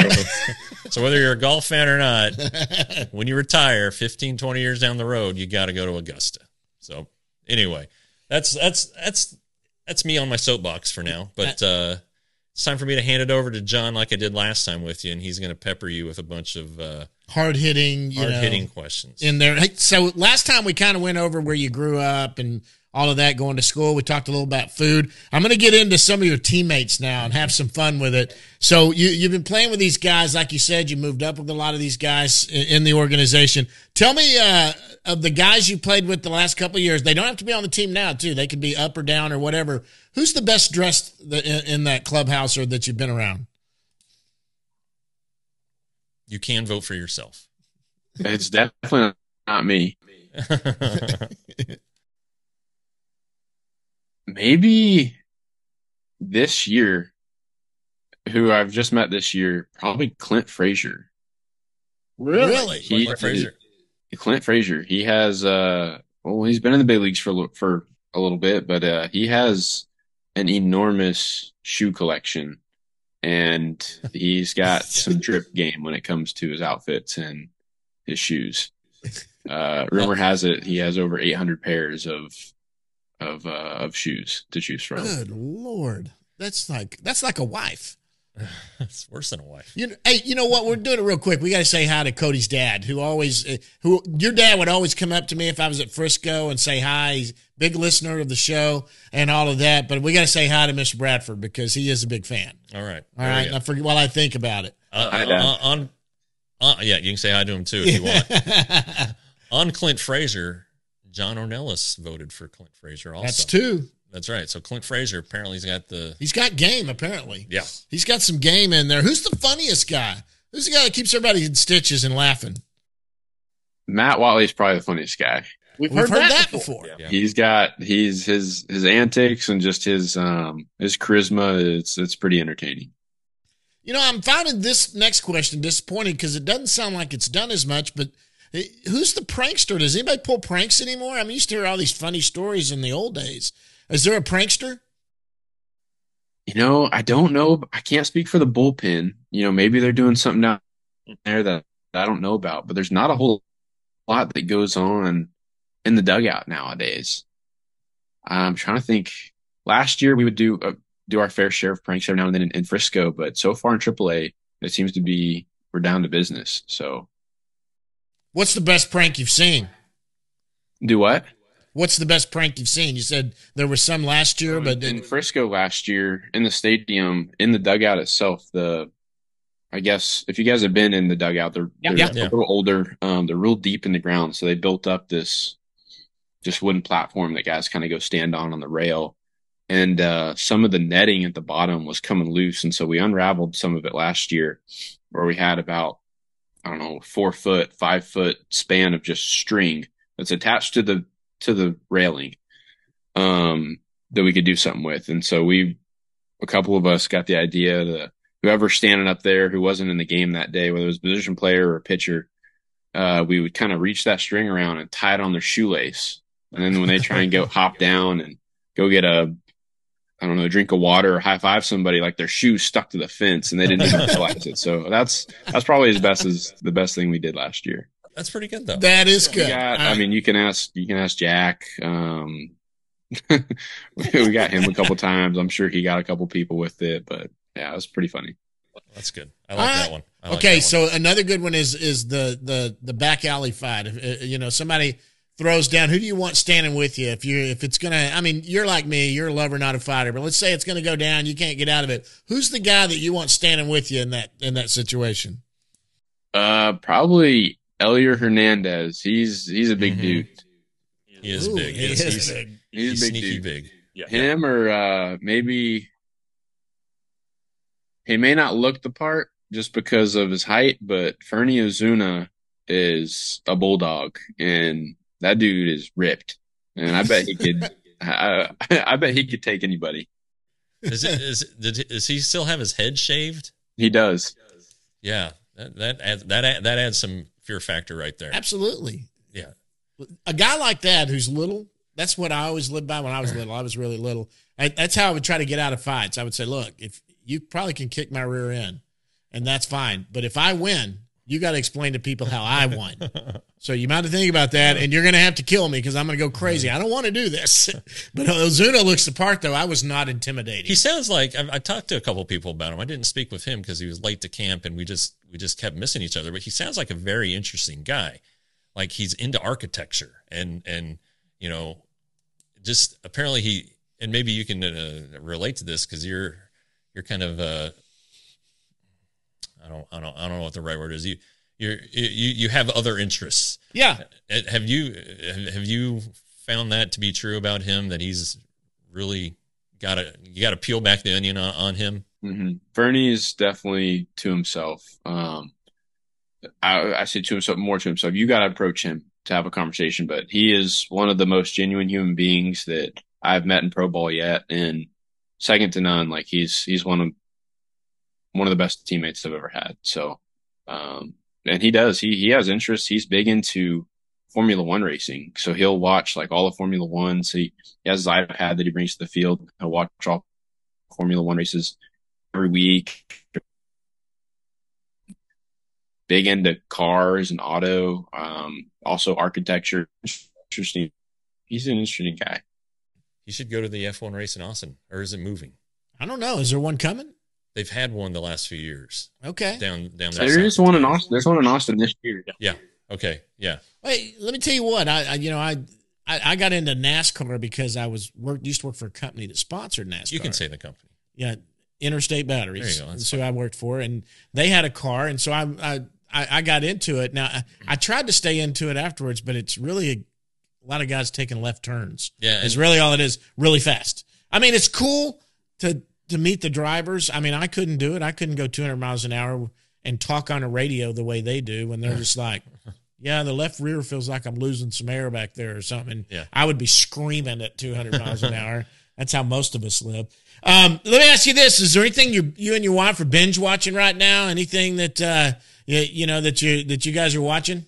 So whether you're a golf fan or not, when you retire 15, 20 years down the road, you got to go to Augusta. So anyway. That's me on my soapbox for now, but it's time for me to hand it over to John like I did last time with you, and he's going to pepper you with a bunch of hard-hitting questions in there. Hey, so last time we kind of went over where you grew up and all of that, going to school. We talked a little about food. I'm going to get into some of your teammates now and have some fun with it. So you've been playing with these guys. Like you said, you moved up with a lot of these guys in the organization. Tell me of the guys you played with the last couple of years. They don't have to be on the team now, too. They could be up or down or whatever. Who's the best dressed in that clubhouse or that you've been around? You can vote for yourself. It's definitely not me. Maybe this year, who I've just met this year, probably Clint Frazier. Really? Clint Frazier. He has, he's been in the big leagues for a little bit, but he has an enormous shoe collection, and he's got some drip game when it comes to his outfits and his shoes. Rumor has it he has over 800 pairs of shoes to choose from. Good Lord. That's like a wife. It's worse than a wife. Hey, you know what? We're doing it real quick. We got to say hi to Cody's dad, who your dad would always come up to me if I was at Frisco and say hi. He's a big listener of the show and all of that. But we got to say hi to Mr. Bradford because he is a big fan. All right. I forget while I think about it. Yeah, you can say hi to him too if you want. On Clint Frazier, John Ornelas voted for Clint Frazier also. That's two. That's right. So Clint Frazier apparently he's got game, apparently. Yeah. He's got some game in there. Who's the funniest guy? Who's the guy that keeps everybody in stitches and laughing? Matt Watley's probably the funniest guy. We've heard that before. Yeah. He's got his antics and just his charisma. It's pretty entertaining. I'm finding this next question disappointing because it doesn't sound like it's done as much, but who's the prankster? Does anybody pull pranks anymore? I used to hear all these funny stories in the old days. Is there a prankster? I don't know. I can't speak for the bullpen. Maybe they're doing something down there that I don't know about, but there's not a whole lot that goes on in the dugout nowadays. I'm trying to think. Last year we would do our fair share of pranks every now and then in Frisco, but so far in AAA, it seems to be we're down to business. So, what's the best prank you've seen? Do what? What's the best prank you've seen? You said there was some last year, but in Frisco last year in the stadium, in the dugout itself, I guess if you guys have been in the dugout, they're a little older. They're real deep in the ground, so they built up this just wooden platform that guys kind of go stand on the rail, and some of the netting at the bottom was coming loose, and so we unraveled some of it last year, where we had about 4 foot, 5 foot span of just string that's attached to the railing that we could do something with. And so a couple of us got the idea that whoever's standing up there who wasn't in the game that day, whether it was a position player or a pitcher, we would kind of reach that string around and tie it on their shoelace. And then when they try and go hop down and go get a I don't know, drink of water or high five somebody, like their shoes stuck to the fence and they didn't even realize it. So that's probably the best thing we did last year. That's pretty good though. That is good. I mean, you can ask Jack. We got him a couple times. I'm sure he got a couple people with it, but yeah, it was pretty funny. That's good. I like that one. Okay, so another good one is the back alley fight. If, somebody throws down, who do you want standing with you? If it's gonna, I mean, you're like me, you're a lover, not a fighter. But let's say it's gonna go down, you can't get out of it. Who's the guy that you want standing with you in that situation? Probably Elier Hernandez. He's a big dude. He is big. He's big. He's a big sneaky dude. Big. Yeah. Him or maybe he may not look the part just because of his height, but Fernie Ozuna is a bulldog, and that dude is ripped. And I bet he could. I bet he could take anybody. Does he still have his head shaved? He does. Yeah, that adds some fear factor right there. Absolutely. Yeah, a guy like that who's little. That's what I always lived by when I was little. I was really little. That's how I would try to get out of fights. I would say, look, if you probably can kick my rear end, and that's fine. But if I win, you got to explain to people how I won. So you might have to think about that, and you're going to have to kill me because I'm going to go crazy. I don't want to do this. But Ozuna looks the part, though. I was not intimidating. He sounds like I talked to a couple people about him. I didn't speak with him because he was late to camp, and we just kept missing each other. But he sounds like a very interesting guy. Like he's into architecture, and just apparently and maybe you can relate to this because you're kind of I don't know what the right word is. You have other interests. Yeah. Have you found that to be true about him, that he's really you got to peel back the onion on him? Mm-hmm. Fernie is definitely to himself. I say to himself, more to himself. You got to approach him to have a conversation, but he is one of the most genuine human beings that I've met in pro ball yet, and second to none. Like he's one of the best teammates I've ever had. So, and he has interests. He's big into Formula One racing, so he'll watch like all of Formula One. So he has his iPad that he brings to the field. He'll watch all Formula One races every week. Big into cars and auto, also architecture. Interesting. He's an interesting guy. You should go to the F1 race in Austin, or is it moving? I don't know. Is there one coming? They've had one the last few years. Okay. Down there. There is one in Austin. There's one in Austin this year. Yeah. Okay. Yeah. Wait, let me tell you what. I got into NASCAR because I used to work for a company that sponsored NASCAR. You can say the company. Yeah, Interstate Batteries. There you go. That's who I worked for, and they had a car, and so I got into it. Now I tried to stay into it afterwards, but it's really a lot of guys taking left turns. Yeah, it's really all it is. Really fast. I mean, it's cool to meet the drivers. I mean, I couldn't do it. I couldn't go 200 miles an hour and talk on a radio the way they do when they're just like, yeah, the left rear feels like I'm losing some air back there or something. Yeah. I would be screaming at 200 miles an hour. That's how most of us live. Let me ask you this. Is there anything you and your wife are binge watching right now? Anything that, that you guys are watching?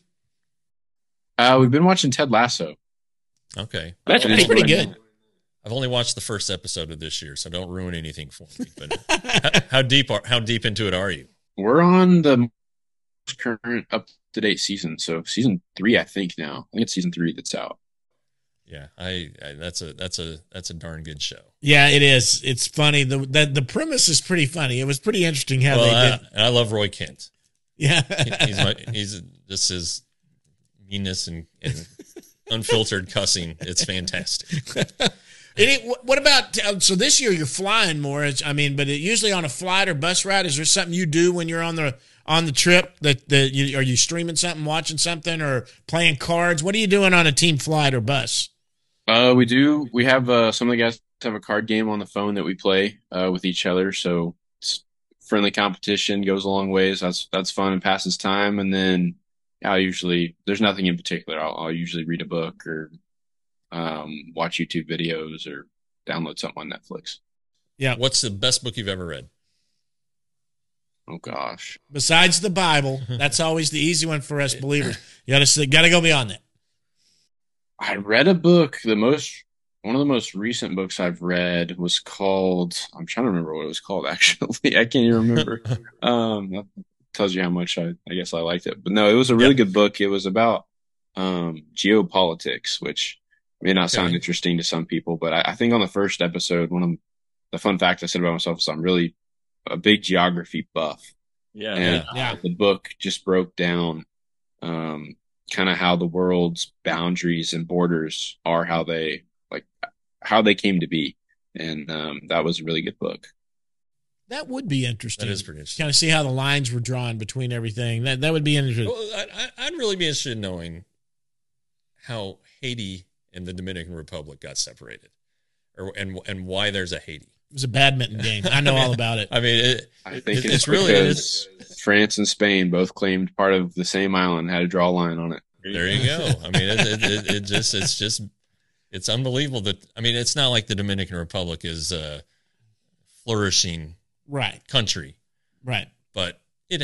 We've been watching Ted Lasso. Okay. That's pretty good. I've only watched the first episode of this year, so don't ruin anything for me. But how deep into it are you? We're on the current up-to-date season, so season 3, I think now. I think it's season 3 that's out. Yeah, that's a darn good show. Yeah, it is. It's funny. The premise is pretty funny. It was pretty interesting how they did. I love Roy Kent. Yeah, he's just his meanness and unfiltered cussing. It's fantastic. What about, so this year you're flying more, but usually on a flight or bus ride, is there something you do when you're on the trip are you streaming something, watching something, or playing cards? What are you doing on a team flight or bus? We do. We have some of the guys have a card game on the phone that we play with each other. So it's friendly competition, goes a long ways. That's fun and passes time. And then there's nothing in particular. I'll usually read a book or watch YouTube videos or download something on Netflix. Yeah. What's the best book you've ever read? Oh gosh. Besides the Bible, that's always the easy one for us believers. You gotta go beyond that. I read a book. The most one of the most recent books I've read was called, I'm trying to remember what it was called, actually. I can't even remember. That tells you how much I guess I liked it. But no, it was a really good book. It was about geopolitics, which may not sound interesting to some people, but I think on the first episode, one of the fun facts I said about myself is I'm really a big geography buff. Yeah. And the book just broke down kind of how the world's boundaries and borders are, how they came to be. And that was a really good book. That would be interesting. That is pretty interesting. Kind of see how the lines were drawn between everything. That would be interesting. Well, I'd really be interested in knowing how Haiti and the Dominican Republic got separated, and why there's a Haiti. It was a badminton game. I know all about it. I mean, I think it's really because France and Spain both claimed part of the same island, had to draw a line on it. There you go. I mean, it's unbelievable that, I mean, it's not like the Dominican Republic is a flourishing country. Right. But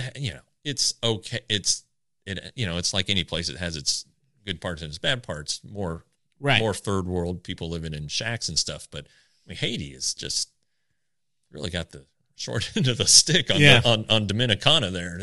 it's okay. It's like any place. It has its good parts and its bad parts. More third world people living in shacks and stuff. But I mean, Haiti is just really got the short end of the stick on Dominicana there.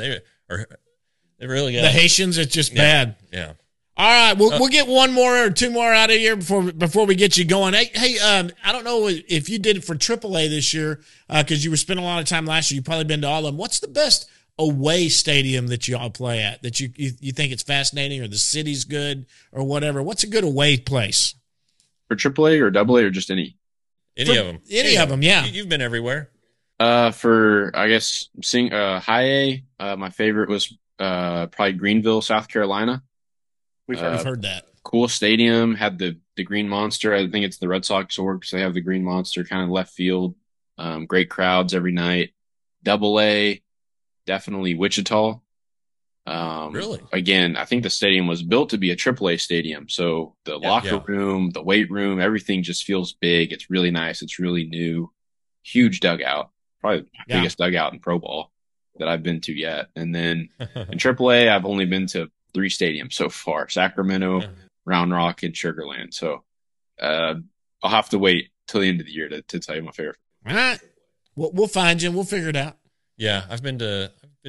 They really got the Haitians. It's just bad. Yeah. All right, we'll get one more or two more out of here before we get you going. Hey, I don't know if you did it for AAA this year because you were spending a lot of time last year. You've probably been to all of them. What's the best away stadium that you all play at that you think it's fascinating, or the city's good, or whatever? What's a good away place for AAA or AA or just any? Any of them. Any of them, yeah. You've been everywhere. For I guess high A, my favorite was probably Greenville, South Carolina. We've heard that. Cool stadium, had the Green Monster. I think it's the Red Sox org, so they have the Green Monster kind of left field. Great crowds every night. AA, definitely Wichita. Really? Again, I think the stadium was built to be a AAA stadium. So the locker room, the weight room, everything just feels big. It's really nice. It's really new. Huge dugout. Probably the biggest dugout in pro ball that I've been to yet. And then in AAA, I've only been to 3 stadiums so far: Sacramento, Round Rock, and Sugar Land. So I'll have to wait till the end of the year to tell you my favorite. All right. We'll find you and we'll figure it out. Yeah, I've been to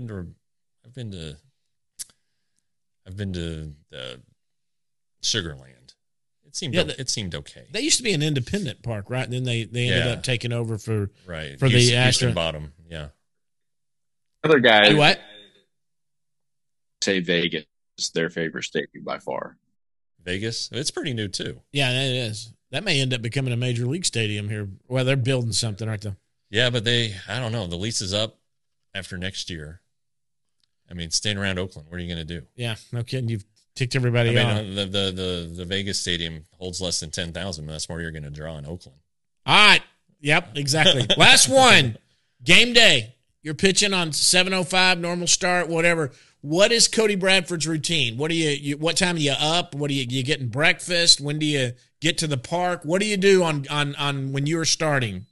Sugar Land. It seemed okay. They used to be an independent park, right? And then they ended up taking over for the Houston Bottom. Yeah. Other guys what? Say Vegas is their favorite stadium by far. Vegas? It's pretty new too. Yeah, it is. That may end up becoming a major league stadium here. Well, they're building something, aren't they? Yeah, but I don't know. The lease is up after next year. I mean, staying around Oakland, what are you going to do? Yeah, no kidding. You've ticked everybody off. The Vegas stadium holds less than 10,000. That's more you're going to draw in Oakland. All right. Yep, exactly. Last one. Game day. You're pitching on 7:05, normal start, whatever. What is Cody Bradford's routine? What what time are you up? What you getting breakfast? When do you get to the park? What do you do on when you're starting?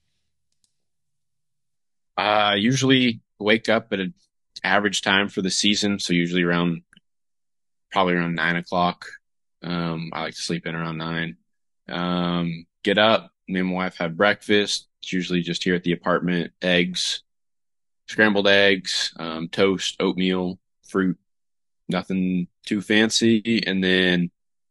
Usually wake up at an average time for the season, so usually probably around 9 o'clock. I like to sleep in around 9. Get up, me and my wife have breakfast. It's usually just here at the apartment: eggs, scrambled eggs, toast, oatmeal, fruit, nothing too fancy. And then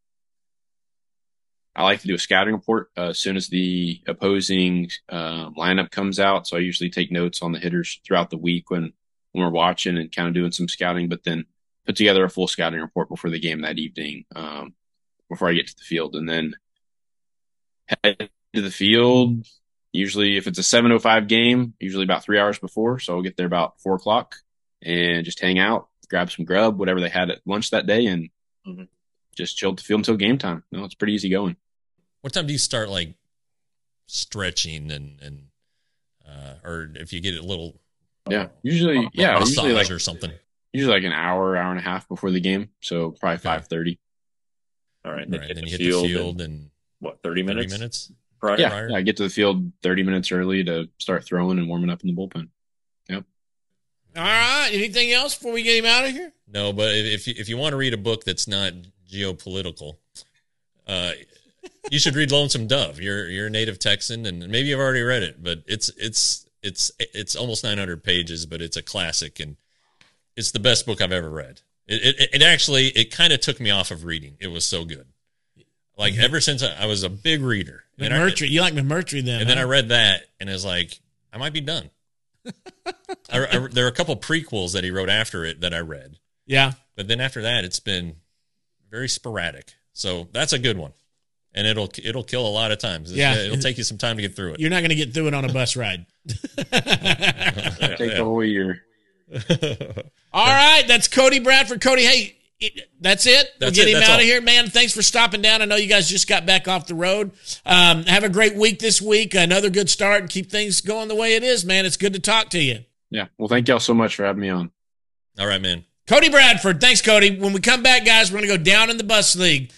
I like to do a scouting report as soon as the opposing lineup comes out. So I usually take notes on the hitters throughout the week when we're watching and kind of doing some scouting, but then put together a full scouting report before the game that evening, before I get to the field. And then head to the field. Usually if it's a 7:05 game, usually about 3 hours before. So I'll get there about 4 o'clock and just hang out, grab some grub, whatever they had at lunch that day, and just chill at the field until game time. No, it's pretty easy going. What time do you start like stretching and or if you get a little usually like or something. Usually like an hour and a half before the game. So probably 5:30. All right. Then you hit the field and what, 30 minutes? 30 minutes? Prior? I get to the field 30 minutes early to start throwing and warming up in the bullpen. Yep. All right. Anything else before we get him out of here? No, but if you want to read a book that's not geopolitical, you should read Lonesome Dove. You're a native Texan, and maybe you've already read it, but it's almost 900 pages, but it's a classic, and it's the best book I've ever read. It actually kind of took me off of reading. It was so good. Like ever since I was a big reader. McMurtry, you like McMurtry then? And then I read that, and I was like, I might be done. There are a couple prequels that he wrote after it that I read. Yeah. But then after that, it's been very sporadic. So that's a good one. And it'll kill a lot of times. It'll take you some time to get through it. You're not going to get through it on a bus ride. Take the whole year. All right. That's Cody Bradford. Cody, hey, that's it. We'll get him out of here, man. Thanks for stopping down. I know you guys just got back off the road. Have a great week this week. Another good start, and keep things going the way it is, man. It's good to talk to you. Yeah. Well, thank y'all so much for having me on. All right, man. Cody Bradford. Thanks, Cody. When we come back, guys, we're going to go down in the bus league.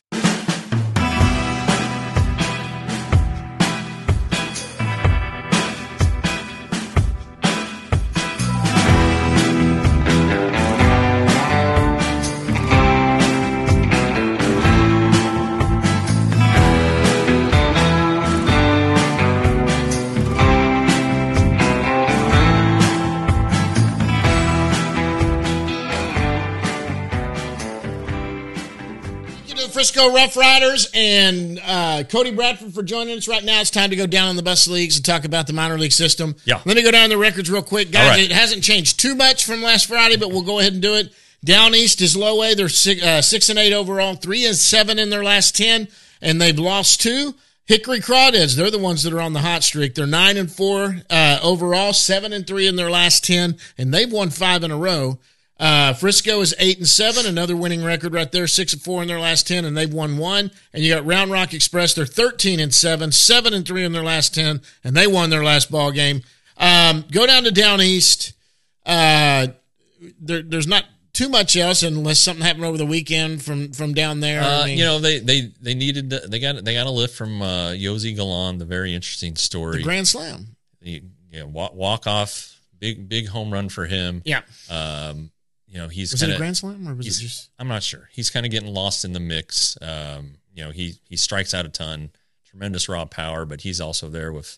Frisco Rough Riders and Cody Bradford for joining us right now. It's time to go down in the bus leagues and talk about the minor league system. Yeah. Let me go down the records real quick. Guys, right. It hasn't changed too much from last Friday, but we'll go ahead and do it. Down east is Low A. They're 6-8 overall, 3-7 in their last 10, and they've lost 2. Hickory Crawdads, they're the ones that are on the hot streak. They're 9-4 overall, 7-3 in their last 10, and they've won 5 in a row. Frisco is 8-7, another winning record right there, 6-4 in their last 10, and they've won 1. And you got Round Rock Express, they're 13-7, 7-3 in their last 10, and they won their last ball game. Go down to down east. There's not too much else unless something happened over the weekend from down there. They needed they got a lift from Yosi Galan, the very interesting story. The Grand Slam. Walk off, big home run for him. Yeah. He's was it a Grand Slam or was it just? I'm not sure. He's kind of getting lost in the mix. He strikes out a ton, tremendous raw power, but he's also there with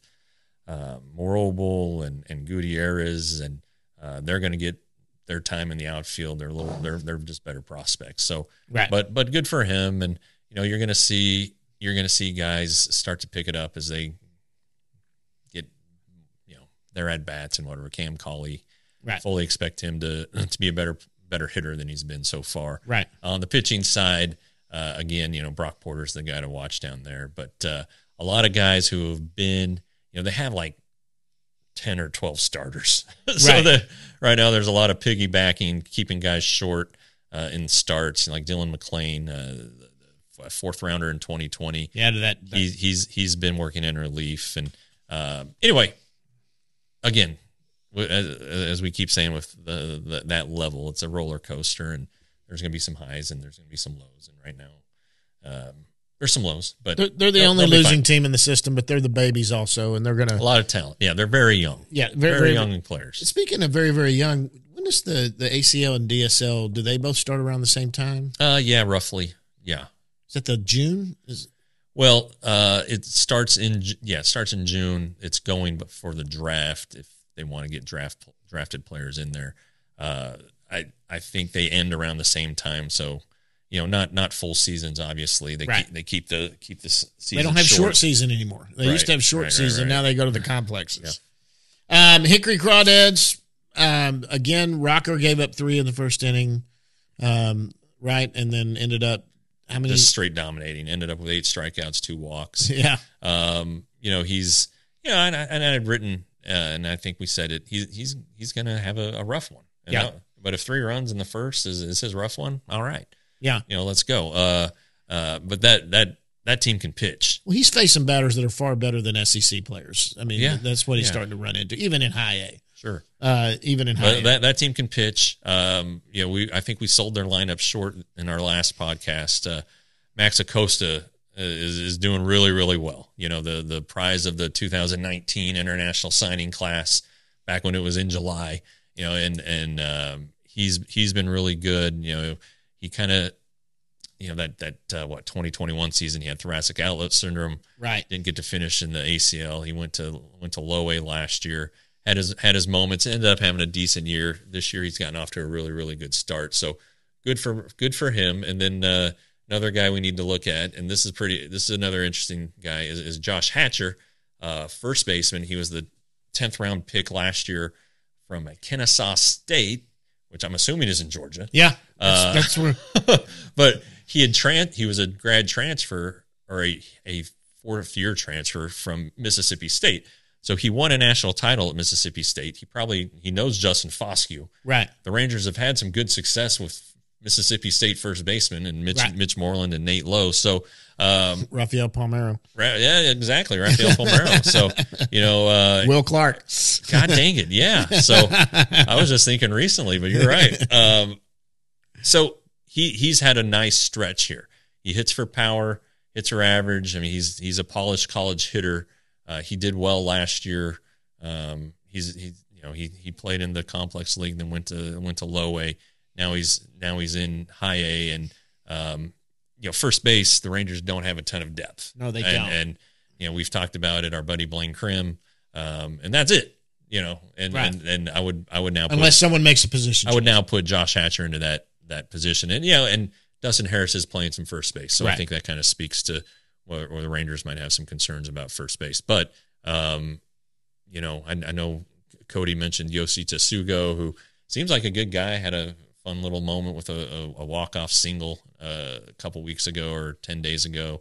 Morobel and Gutierrez, and they're going to get their time in the outfield. They're just better prospects. So, right. But good for him, and you're going to see guys start to pick it up as they get their at bats and whatever. Cam Cauley. Right. Fully expect him to be a better hitter than he's been so far. Right. On the pitching side, again, Brock Porter's the guy to watch down there. But a lot of guys who have been, they have like 10 or 12 starters. So right now there's a lot of piggybacking, keeping guys short in starts, like Dylan McClain, fourth rounder in 2020. Yeah, he's been working in relief. And anyway, again, as we keep saying with that level, it's a roller coaster, and there's going to be some highs and there's going to be some lows. And right now, there's some lows, but they're the only losing team in the system, but they're the babies also, and they're going to a lot of talent. Yeah, they're very young. Yeah, very young players. Speaking of very, very young, when does the ACL and DSL, do they both start around the same time? Yeah, roughly. Yeah. Is that the June? Well, it starts in June. It's going for the draft if they want to get drafted players in there. I think they end around the same time. So, not full seasons. Obviously, they keep the season. They don't have short season anymore. They used to have short season. Now they go to the complexes. Yeah. Hickory Crawdads. Again, Rocker gave up 3 in the first inning. Right, and then ended up how many? Just straight dominating. Ended up with 8 strikeouts, 2 walks. Yeah. He's and I had written. And I think we said it. He's going to have a rough one. But if 3 runs in the first is his rough one, all right. Yeah. Let's go. But that team can pitch. Well, he's facing batters that are far better than SEC players. I mean, that's what he's starting to run into, even in high A. Sure. Even in high A. That team can pitch. I think we sold their lineup short in our last podcast. Max Acosta is doing really, really well. The prize of the 2019 international signing class back when it was in July, and he's been really good. He kind of that 2021 season, he had thoracic outlet syndrome. Right. Didn't get to finish in the ACL. He went to low A last year. Had his moments. Ended up having a decent year. This year he's gotten off to a really, really good start. So good for him. And then another guy we need to look at, and this is another interesting guy, is Josh Hatcher, first baseman. He was the 10th round pick last year from Kennesaw State, which I'm assuming is in Georgia. Yeah, that's where. But he was a grad transfer, or a fourth year transfer from Mississippi State. So he won a national title at Mississippi State. He knows Justin Foscue. Right. The Rangers have had some good success with Mississippi State first baseman and Mitch Moreland and Nate Lowe. So Rafael Palmeiro. Yeah, exactly. Rafael Palmeiro. So, Will Clark. God dang it. Yeah. So I was just thinking recently, but you're right. So he's had a nice stretch here. He hits for power, hits for average. I mean, he's a polished college hitter. He did well last year. He played in the complex league, then went to low A. Now he's in high A, and first base, the Rangers don't have a ton of depth. No, they don't. And we've talked about it. Our buddy Blaine Krim, and that's it. And I would now unless someone makes a position. I would now put Josh Hatcher into that position, and Dustin Harris is playing some first base, so I think that kind of speaks to where the Rangers might have some concerns about first base. But I know Cody mentioned Yoshi Tsugo, who seems like a good guy. Had a fun little moment with a walk-off single a couple weeks ago or 10 days ago.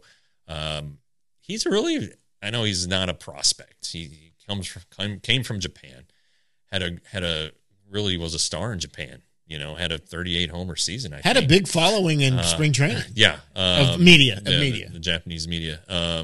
I know he's not a prospect. He came from Japan, really was a star in Japan. Had a 38 homer season. I think. A big following in spring training. Yeah, of media. The Japanese media.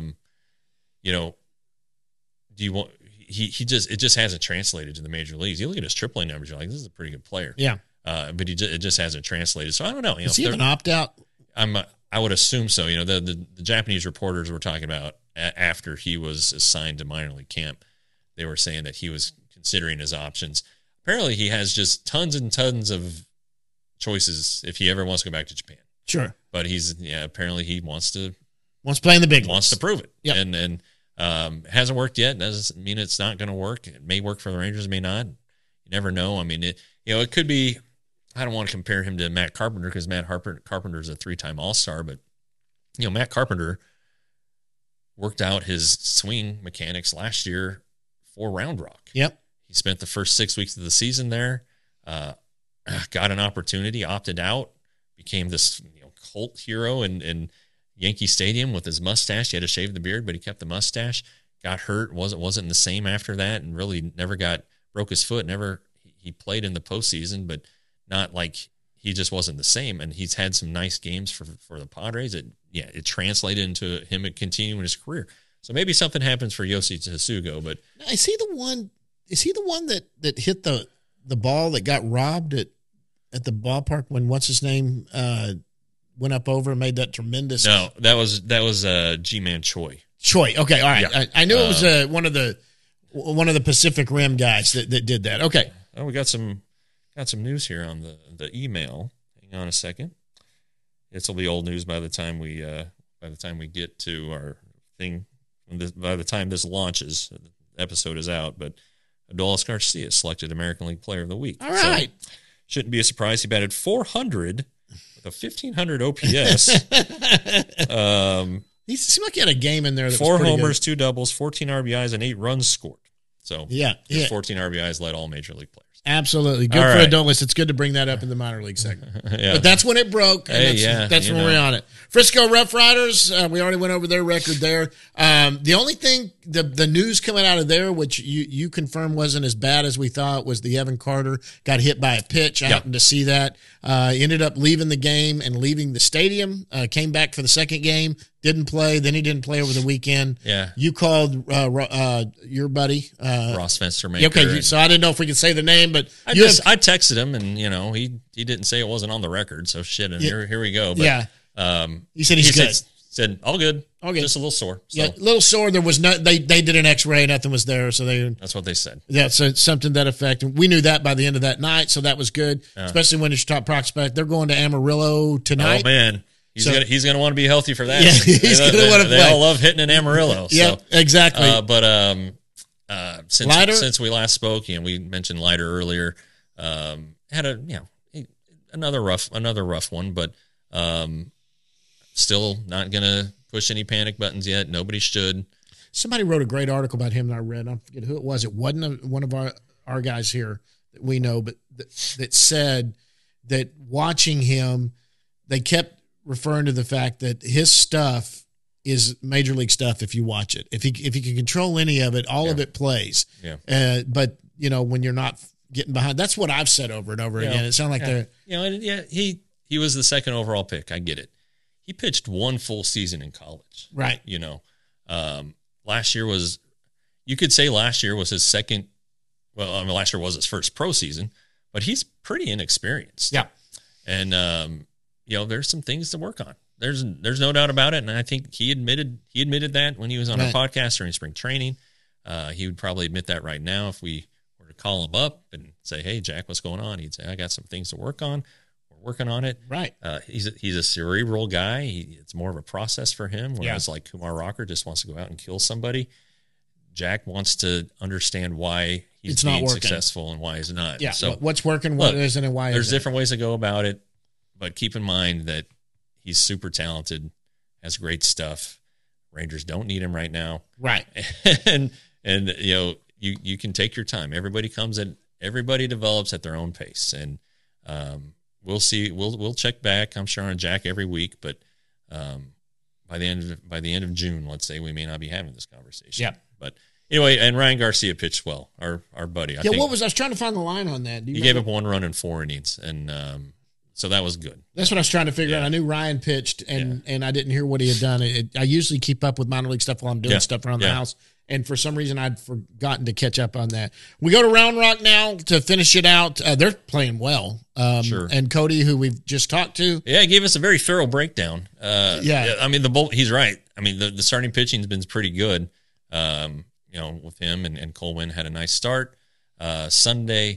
Do you want? It just hasn't translated to the major leagues. You look at his AAA numbers, you're like, this is a pretty good player. Yeah. But it just hasn't translated. So I don't know. Does he have an opt out? I would assume so. The Japanese reporters were talking about after he was assigned to minor league camp, they were saying that he was considering his options. Apparently, he has just tons and tons of choices if he ever wants to go back to Japan. Sure, but apparently he wants to play in the big wants leagues. to prove it. Yep. And hasn't worked yet. Doesn't mean it's not going to work. It may work for the Rangers, may not. You never know. I mean, it could be. I don't want to compare him to Matt Carpenter because Matt Carpenter is a 3-time All-Star, but Matt Carpenter worked out his swing mechanics last year for Round Rock. Yep. He spent the first 6 weeks of the season there, got an opportunity, opted out, became this cult hero in Yankee Stadium with his mustache. He had to shave the beard, but he kept the mustache. Got hurt, wasn't the same after that, and really broke his foot. He played in the postseason, but not like he just wasn't the same. And he's had some nice games for the Padres. It translated into him continuing his career. So maybe something happens for Yoshi Tsugo, but is he the one that hit the ball that got robbed at the ballpark when what's his name went up over and made that tremendous? No, that was G-Man Choi. Choi. Okay, all right. Yeah. I knew it was one of the Pacific Rim guys that did that. Okay. Oh, we got some news here on the email. Hang on a second. This will be old news by the time we get to our thing. By the time this launches, the episode is out. But Adolis Garcia selected American League Player of the Week. All right. So, shouldn't be a surprise. He batted .400 with a 1,500 OPS. He seemed like he had a game in there. That 4 was pretty homers, good. 2 doubles, 14 RBIs, and 8 runs scored. So yeah. 14 RBIs led all major league players. Absolutely. Good All for right. Adolis. It's good to bring that up in the minor league segment. Yeah. But that's when it broke. And that's when we're on it. Frisco Rough Riders, we already went over their record there. The only thing, the news coming out of there, which you confirmed wasn't as bad as we thought, was the Evan Carter got hit by a pitch. I happened to see that. Ended up leaving the game and leaving the stadium. Came back for the second game. Didn't play. Then he didn't play over the weekend. Yeah. You called your buddy. Ross Fenstermaker. Okay, so I didn't know if we could say the name, but I texted him, and he didn't say it wasn't on the record. So shit, and here we go. But, he said he's good. Said all good. All good. Just a little sore. So Yeah, a little sore. There was no. They did an X-ray. Nothing was there. So that's what they said. Yeah, so something to that effect. And we knew that by the end of that night. So that was good, especially when it's your top prospect. They're going to Amarillo tonight. Oh man, He's gonna want to be healthy for that. Yeah, he's gonna want to play. They all love hitting an Amarillo. Yeah, so. exactly. Since we last spoke, we mentioned Leiter earlier. Had another rough one, but still not gonna push any panic buttons yet. Nobody should. Somebody wrote a great article about him that I read. I forget who it was. It wasn't one of our guys here that we know, but that said that watching him, they kept referring to the fact that his stuff is major league stuff. If you watch it, if he can control any of it, all of it plays. Yeah. But when you're not getting behind, that's what I've said over and over again. It sounded like they're he was the second overall pick. I get it. He pitched one full season in college. Right. Last year was his second. Well, last year was his first pro season, but he's pretty inexperienced. Yeah. And, there's some things to work on. There's no doubt about it. And I think he admitted that when he was on our podcast during spring training. He would probably admit that right now if we were to call him up and say, "Hey, Jack, what's going on?" He'd say, "I got some things to work on. We're working on it." Right. He's a cerebral guy. It's more of a process for him, whereas like Kumar Rocker just wants to go out and kill somebody. Jack wants to understand why he's being successful and why he's not. Yeah. So what's working, what isn't, and why there's isn't. different ways to go about it, but keep in mind that he's super talented, has great stuff. Rangers don't need him right now. Right. and you can take your time. Everybody develops at their own pace. And we'll see. We'll check back, I'm sure, on Jack every week, but by the end of June, let's say, we may not be having this conversation. Yeah. But anyway, and Ryan Garcia pitched well, our buddy. I think I was trying to find the line on that. He gave up 1 run in 4 innings, and so that was good. That's what I was trying to figure out. I knew Ryan pitched, and I didn't hear what he had done. I usually keep up with minor league stuff while I'm doing stuff around the house, and for some reason I'd forgotten to catch up on that. We go to Round Rock now to finish it out. They're playing well. Sure. And Cody, who we've just talked to. Yeah, he gave us a very thorough breakdown. I mean, he's right. I mean, the starting pitching has been pretty good. With him and Colwyn had a nice start Sunday.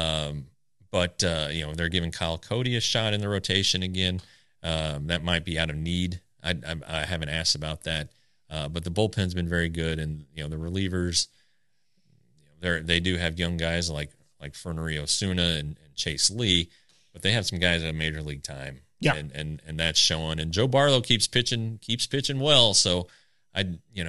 But they're giving Kyle Cody a shot in the rotation again. That might be out of need. I haven't asked about that. But the bullpen's been very good, and the relievers, they do have young guys like Fernando Osuna and Chase Lee, but they have some guys at major league time. Yeah, and that's showing. And Joe Barlow keeps pitching well. So I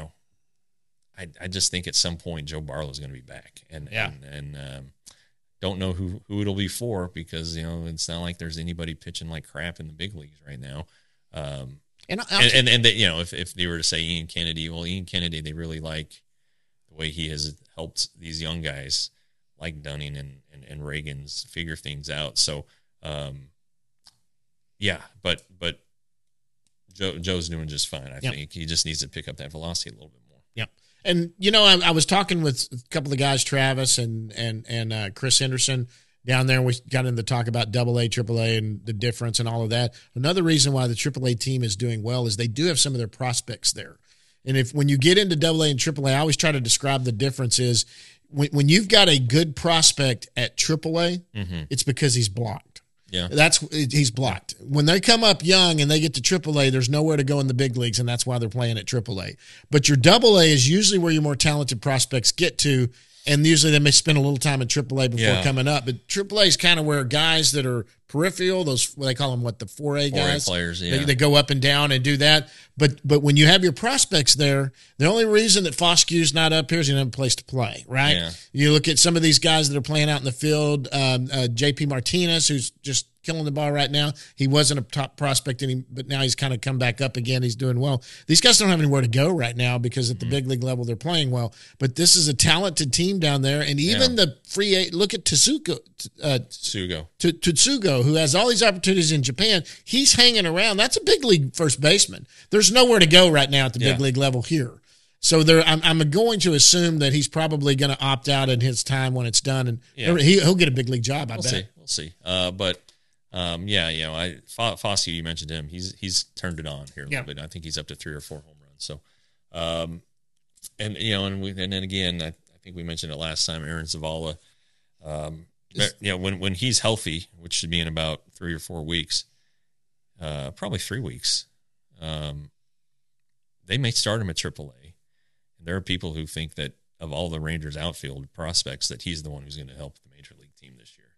just think at some point Joe Barlow is going to be back, and don't know who it'll be for, because it's not like there's anybody pitching like crap in the big leagues right now. If they were to say Ian Kennedy, they really like the way he has helped these young guys like Dunning and Reagan's figure things out. So but Joe's doing just fine. I think he just needs to pick up that velocity a little bit more. Yeah. And, I was talking with a couple of guys, Travis and Chris Henderson down there. We got into talk about AA, AAA, and the difference and all of that. Another reason why the AAA team is doing well is they do have some of their prospects there. And when you get into AA and AAA, I always try to describe the difference is when you've got a good prospect at AAA, it's because he's blocked. Yeah, he's blocked. When they come up young and they get to AAA, there's nowhere to go in the big leagues, and that's why they're playing at AAA. But your AA is usually where your more talented prospects get to, and usually they may spend a little time at AAA before coming up. But AAA is kind of where guys that are peripheral, those what they call them, the 4A guys, 4A players, they go up and down and do that. But when you have your prospects there, the only reason that Foskew's not up here is he doesn't have a place to play, right? Yeah. You look at some of these guys that are playing out in the field, JP Martinez, who's just killing the ball right now. He wasn't a top prospect, but now he's kind of come back up again. He's doing well. These guys don't have anywhere to go right now because at the big league level they're playing well. But this is a talented team down there, and even the free look at Tsugo, who has all these opportunities in Japan. He's hanging around. That's a big league first baseman. There's nowhere to go right now at the big league level here. So I'm going to assume that he's probably going to opt out in his time when it's done, and he'll get a big league job. We'll see. Foskey, you mentioned him. He's turned it on here a little bit. I think he's up to 3 or 4 home runs. So, and then again, I think we mentioned it last time. Aaron Zavala, when he's healthy, which should be in about 3 or 4 weeks, probably 3 weeks, they may start him at AAA. And there are people who think that of all the Rangers outfield prospects, that he's the one who's going to help the major league team this year.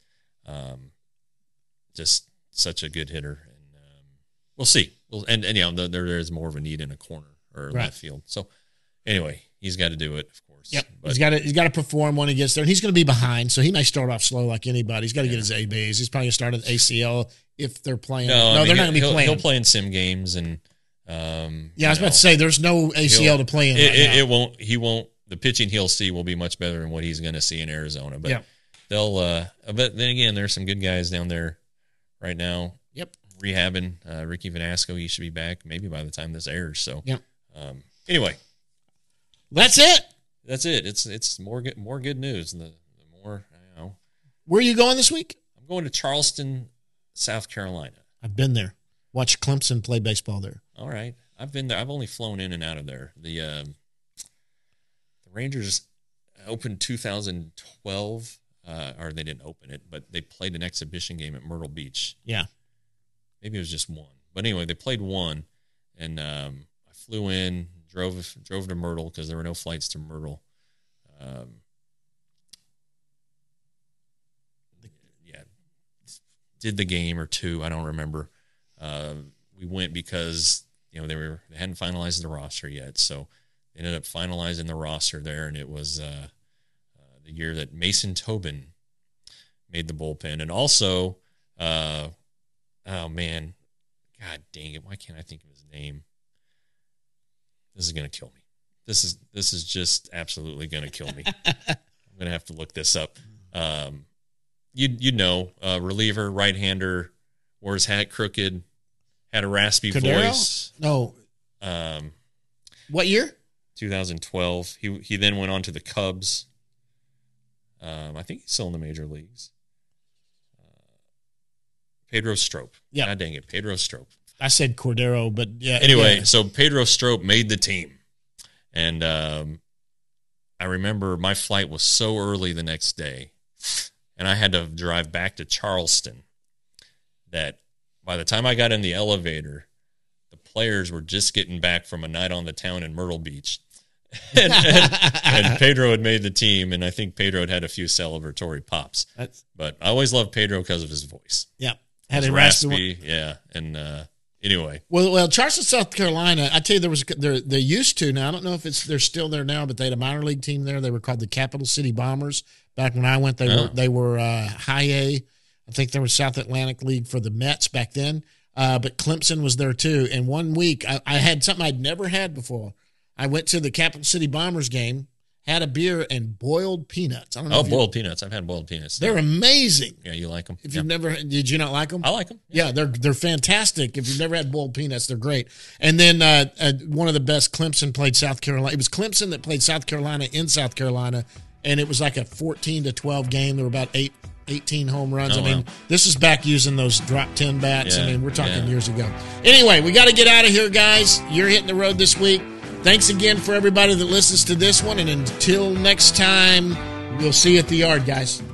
Just such a good hitter, and we'll see. And there is more of a need in a corner or left field. So anyway, he's got to do it, of course. Yep, but he's got to perform when he gets there. And he's going to be behind, so he may start off slow like anybody. He's got to get his A-Base. He's probably going to start at ACL if they're playing. No, they're not going to be playing. He'll play in sim games, and I was about to say there's no ACL to play in. It won't. He won't. The pitching he'll see will be much better than what he's going to see in Arizona. But they'll. But then again, there's some good guys down there right now. Yep. Rehabbing. Ricky Vanasco, he should be back maybe by the time this airs. So. Yep. Anyway. That's it. That's it. It's more good news. The more Where are you going this week? I'm going to Charleston, South Carolina. I've been there. Watched Clemson play baseball there. All right, I've been there. I've only flown in and out of there. The Rangers opened 2012, or they didn't open it, but they played an exhibition game at Myrtle Beach. Yeah, maybe it was just one, but anyway, they played one, and I flew in. Drove to Myrtle because there were no flights to Myrtle. Did the game or two, I don't remember. We went because they hadn't finalized the roster yet, so they ended up finalizing the roster there, and it was the year that Mason Tobin made the bullpen, and also, oh man, God dang it, why can't I think of his name? This is going to kill me. This is just absolutely going to kill me. I'm going to have to look this up. Reliever, right-hander, wore his hat crooked, had a raspy voice. No. What year? 2012. He then went on to the Cubs. I think he's still in the major leagues. Pedro Strop. Yeah. God dang it, Pedro Strop. I said Cordero, but yeah. Anyway, so Pedro Strop made the team. And I remember my flight was so early the next day, and I had to drive back to Charleston, that by the time I got in the elevator, the players were just getting back from a night on the town in Myrtle Beach. and Pedro had made the team, and I think Pedro had a few celebratory pops. But I always loved Pedro because of his voice. Yeah. Had a raspy. Yeah. And anyway. Well, Charleston, South Carolina, I tell you, they used to, now I don't know if they're still there now, but they had a minor league team there. They were called the Capital City Bombers. Back when I went, they were high A. I think there was South Atlantic League for the Mets back then. But Clemson was there too. And one week I had something I'd never had before. I went to the Capital City Bombers game, had a beer, and boiled peanuts. I don't know. Boiled peanuts. I've had boiled peanuts. They're amazing. Yeah, you like them? If you've never, did you not like them? I like them. Yeah, they're fantastic. If you've never had boiled peanuts, they're great. And then one of the best, Clemson played South Carolina. It was Clemson that played South Carolina in South Carolina, and it was like a 14-12 game. There were about 18 home runs. Wow. This is back using those drop 10 bats. Yeah, we're talking years ago. Anyway, we got to get out of here, guys. You're hitting the road this week. Thanks again for everybody that listens to this one. And until next time, we'll see you at the yard, guys.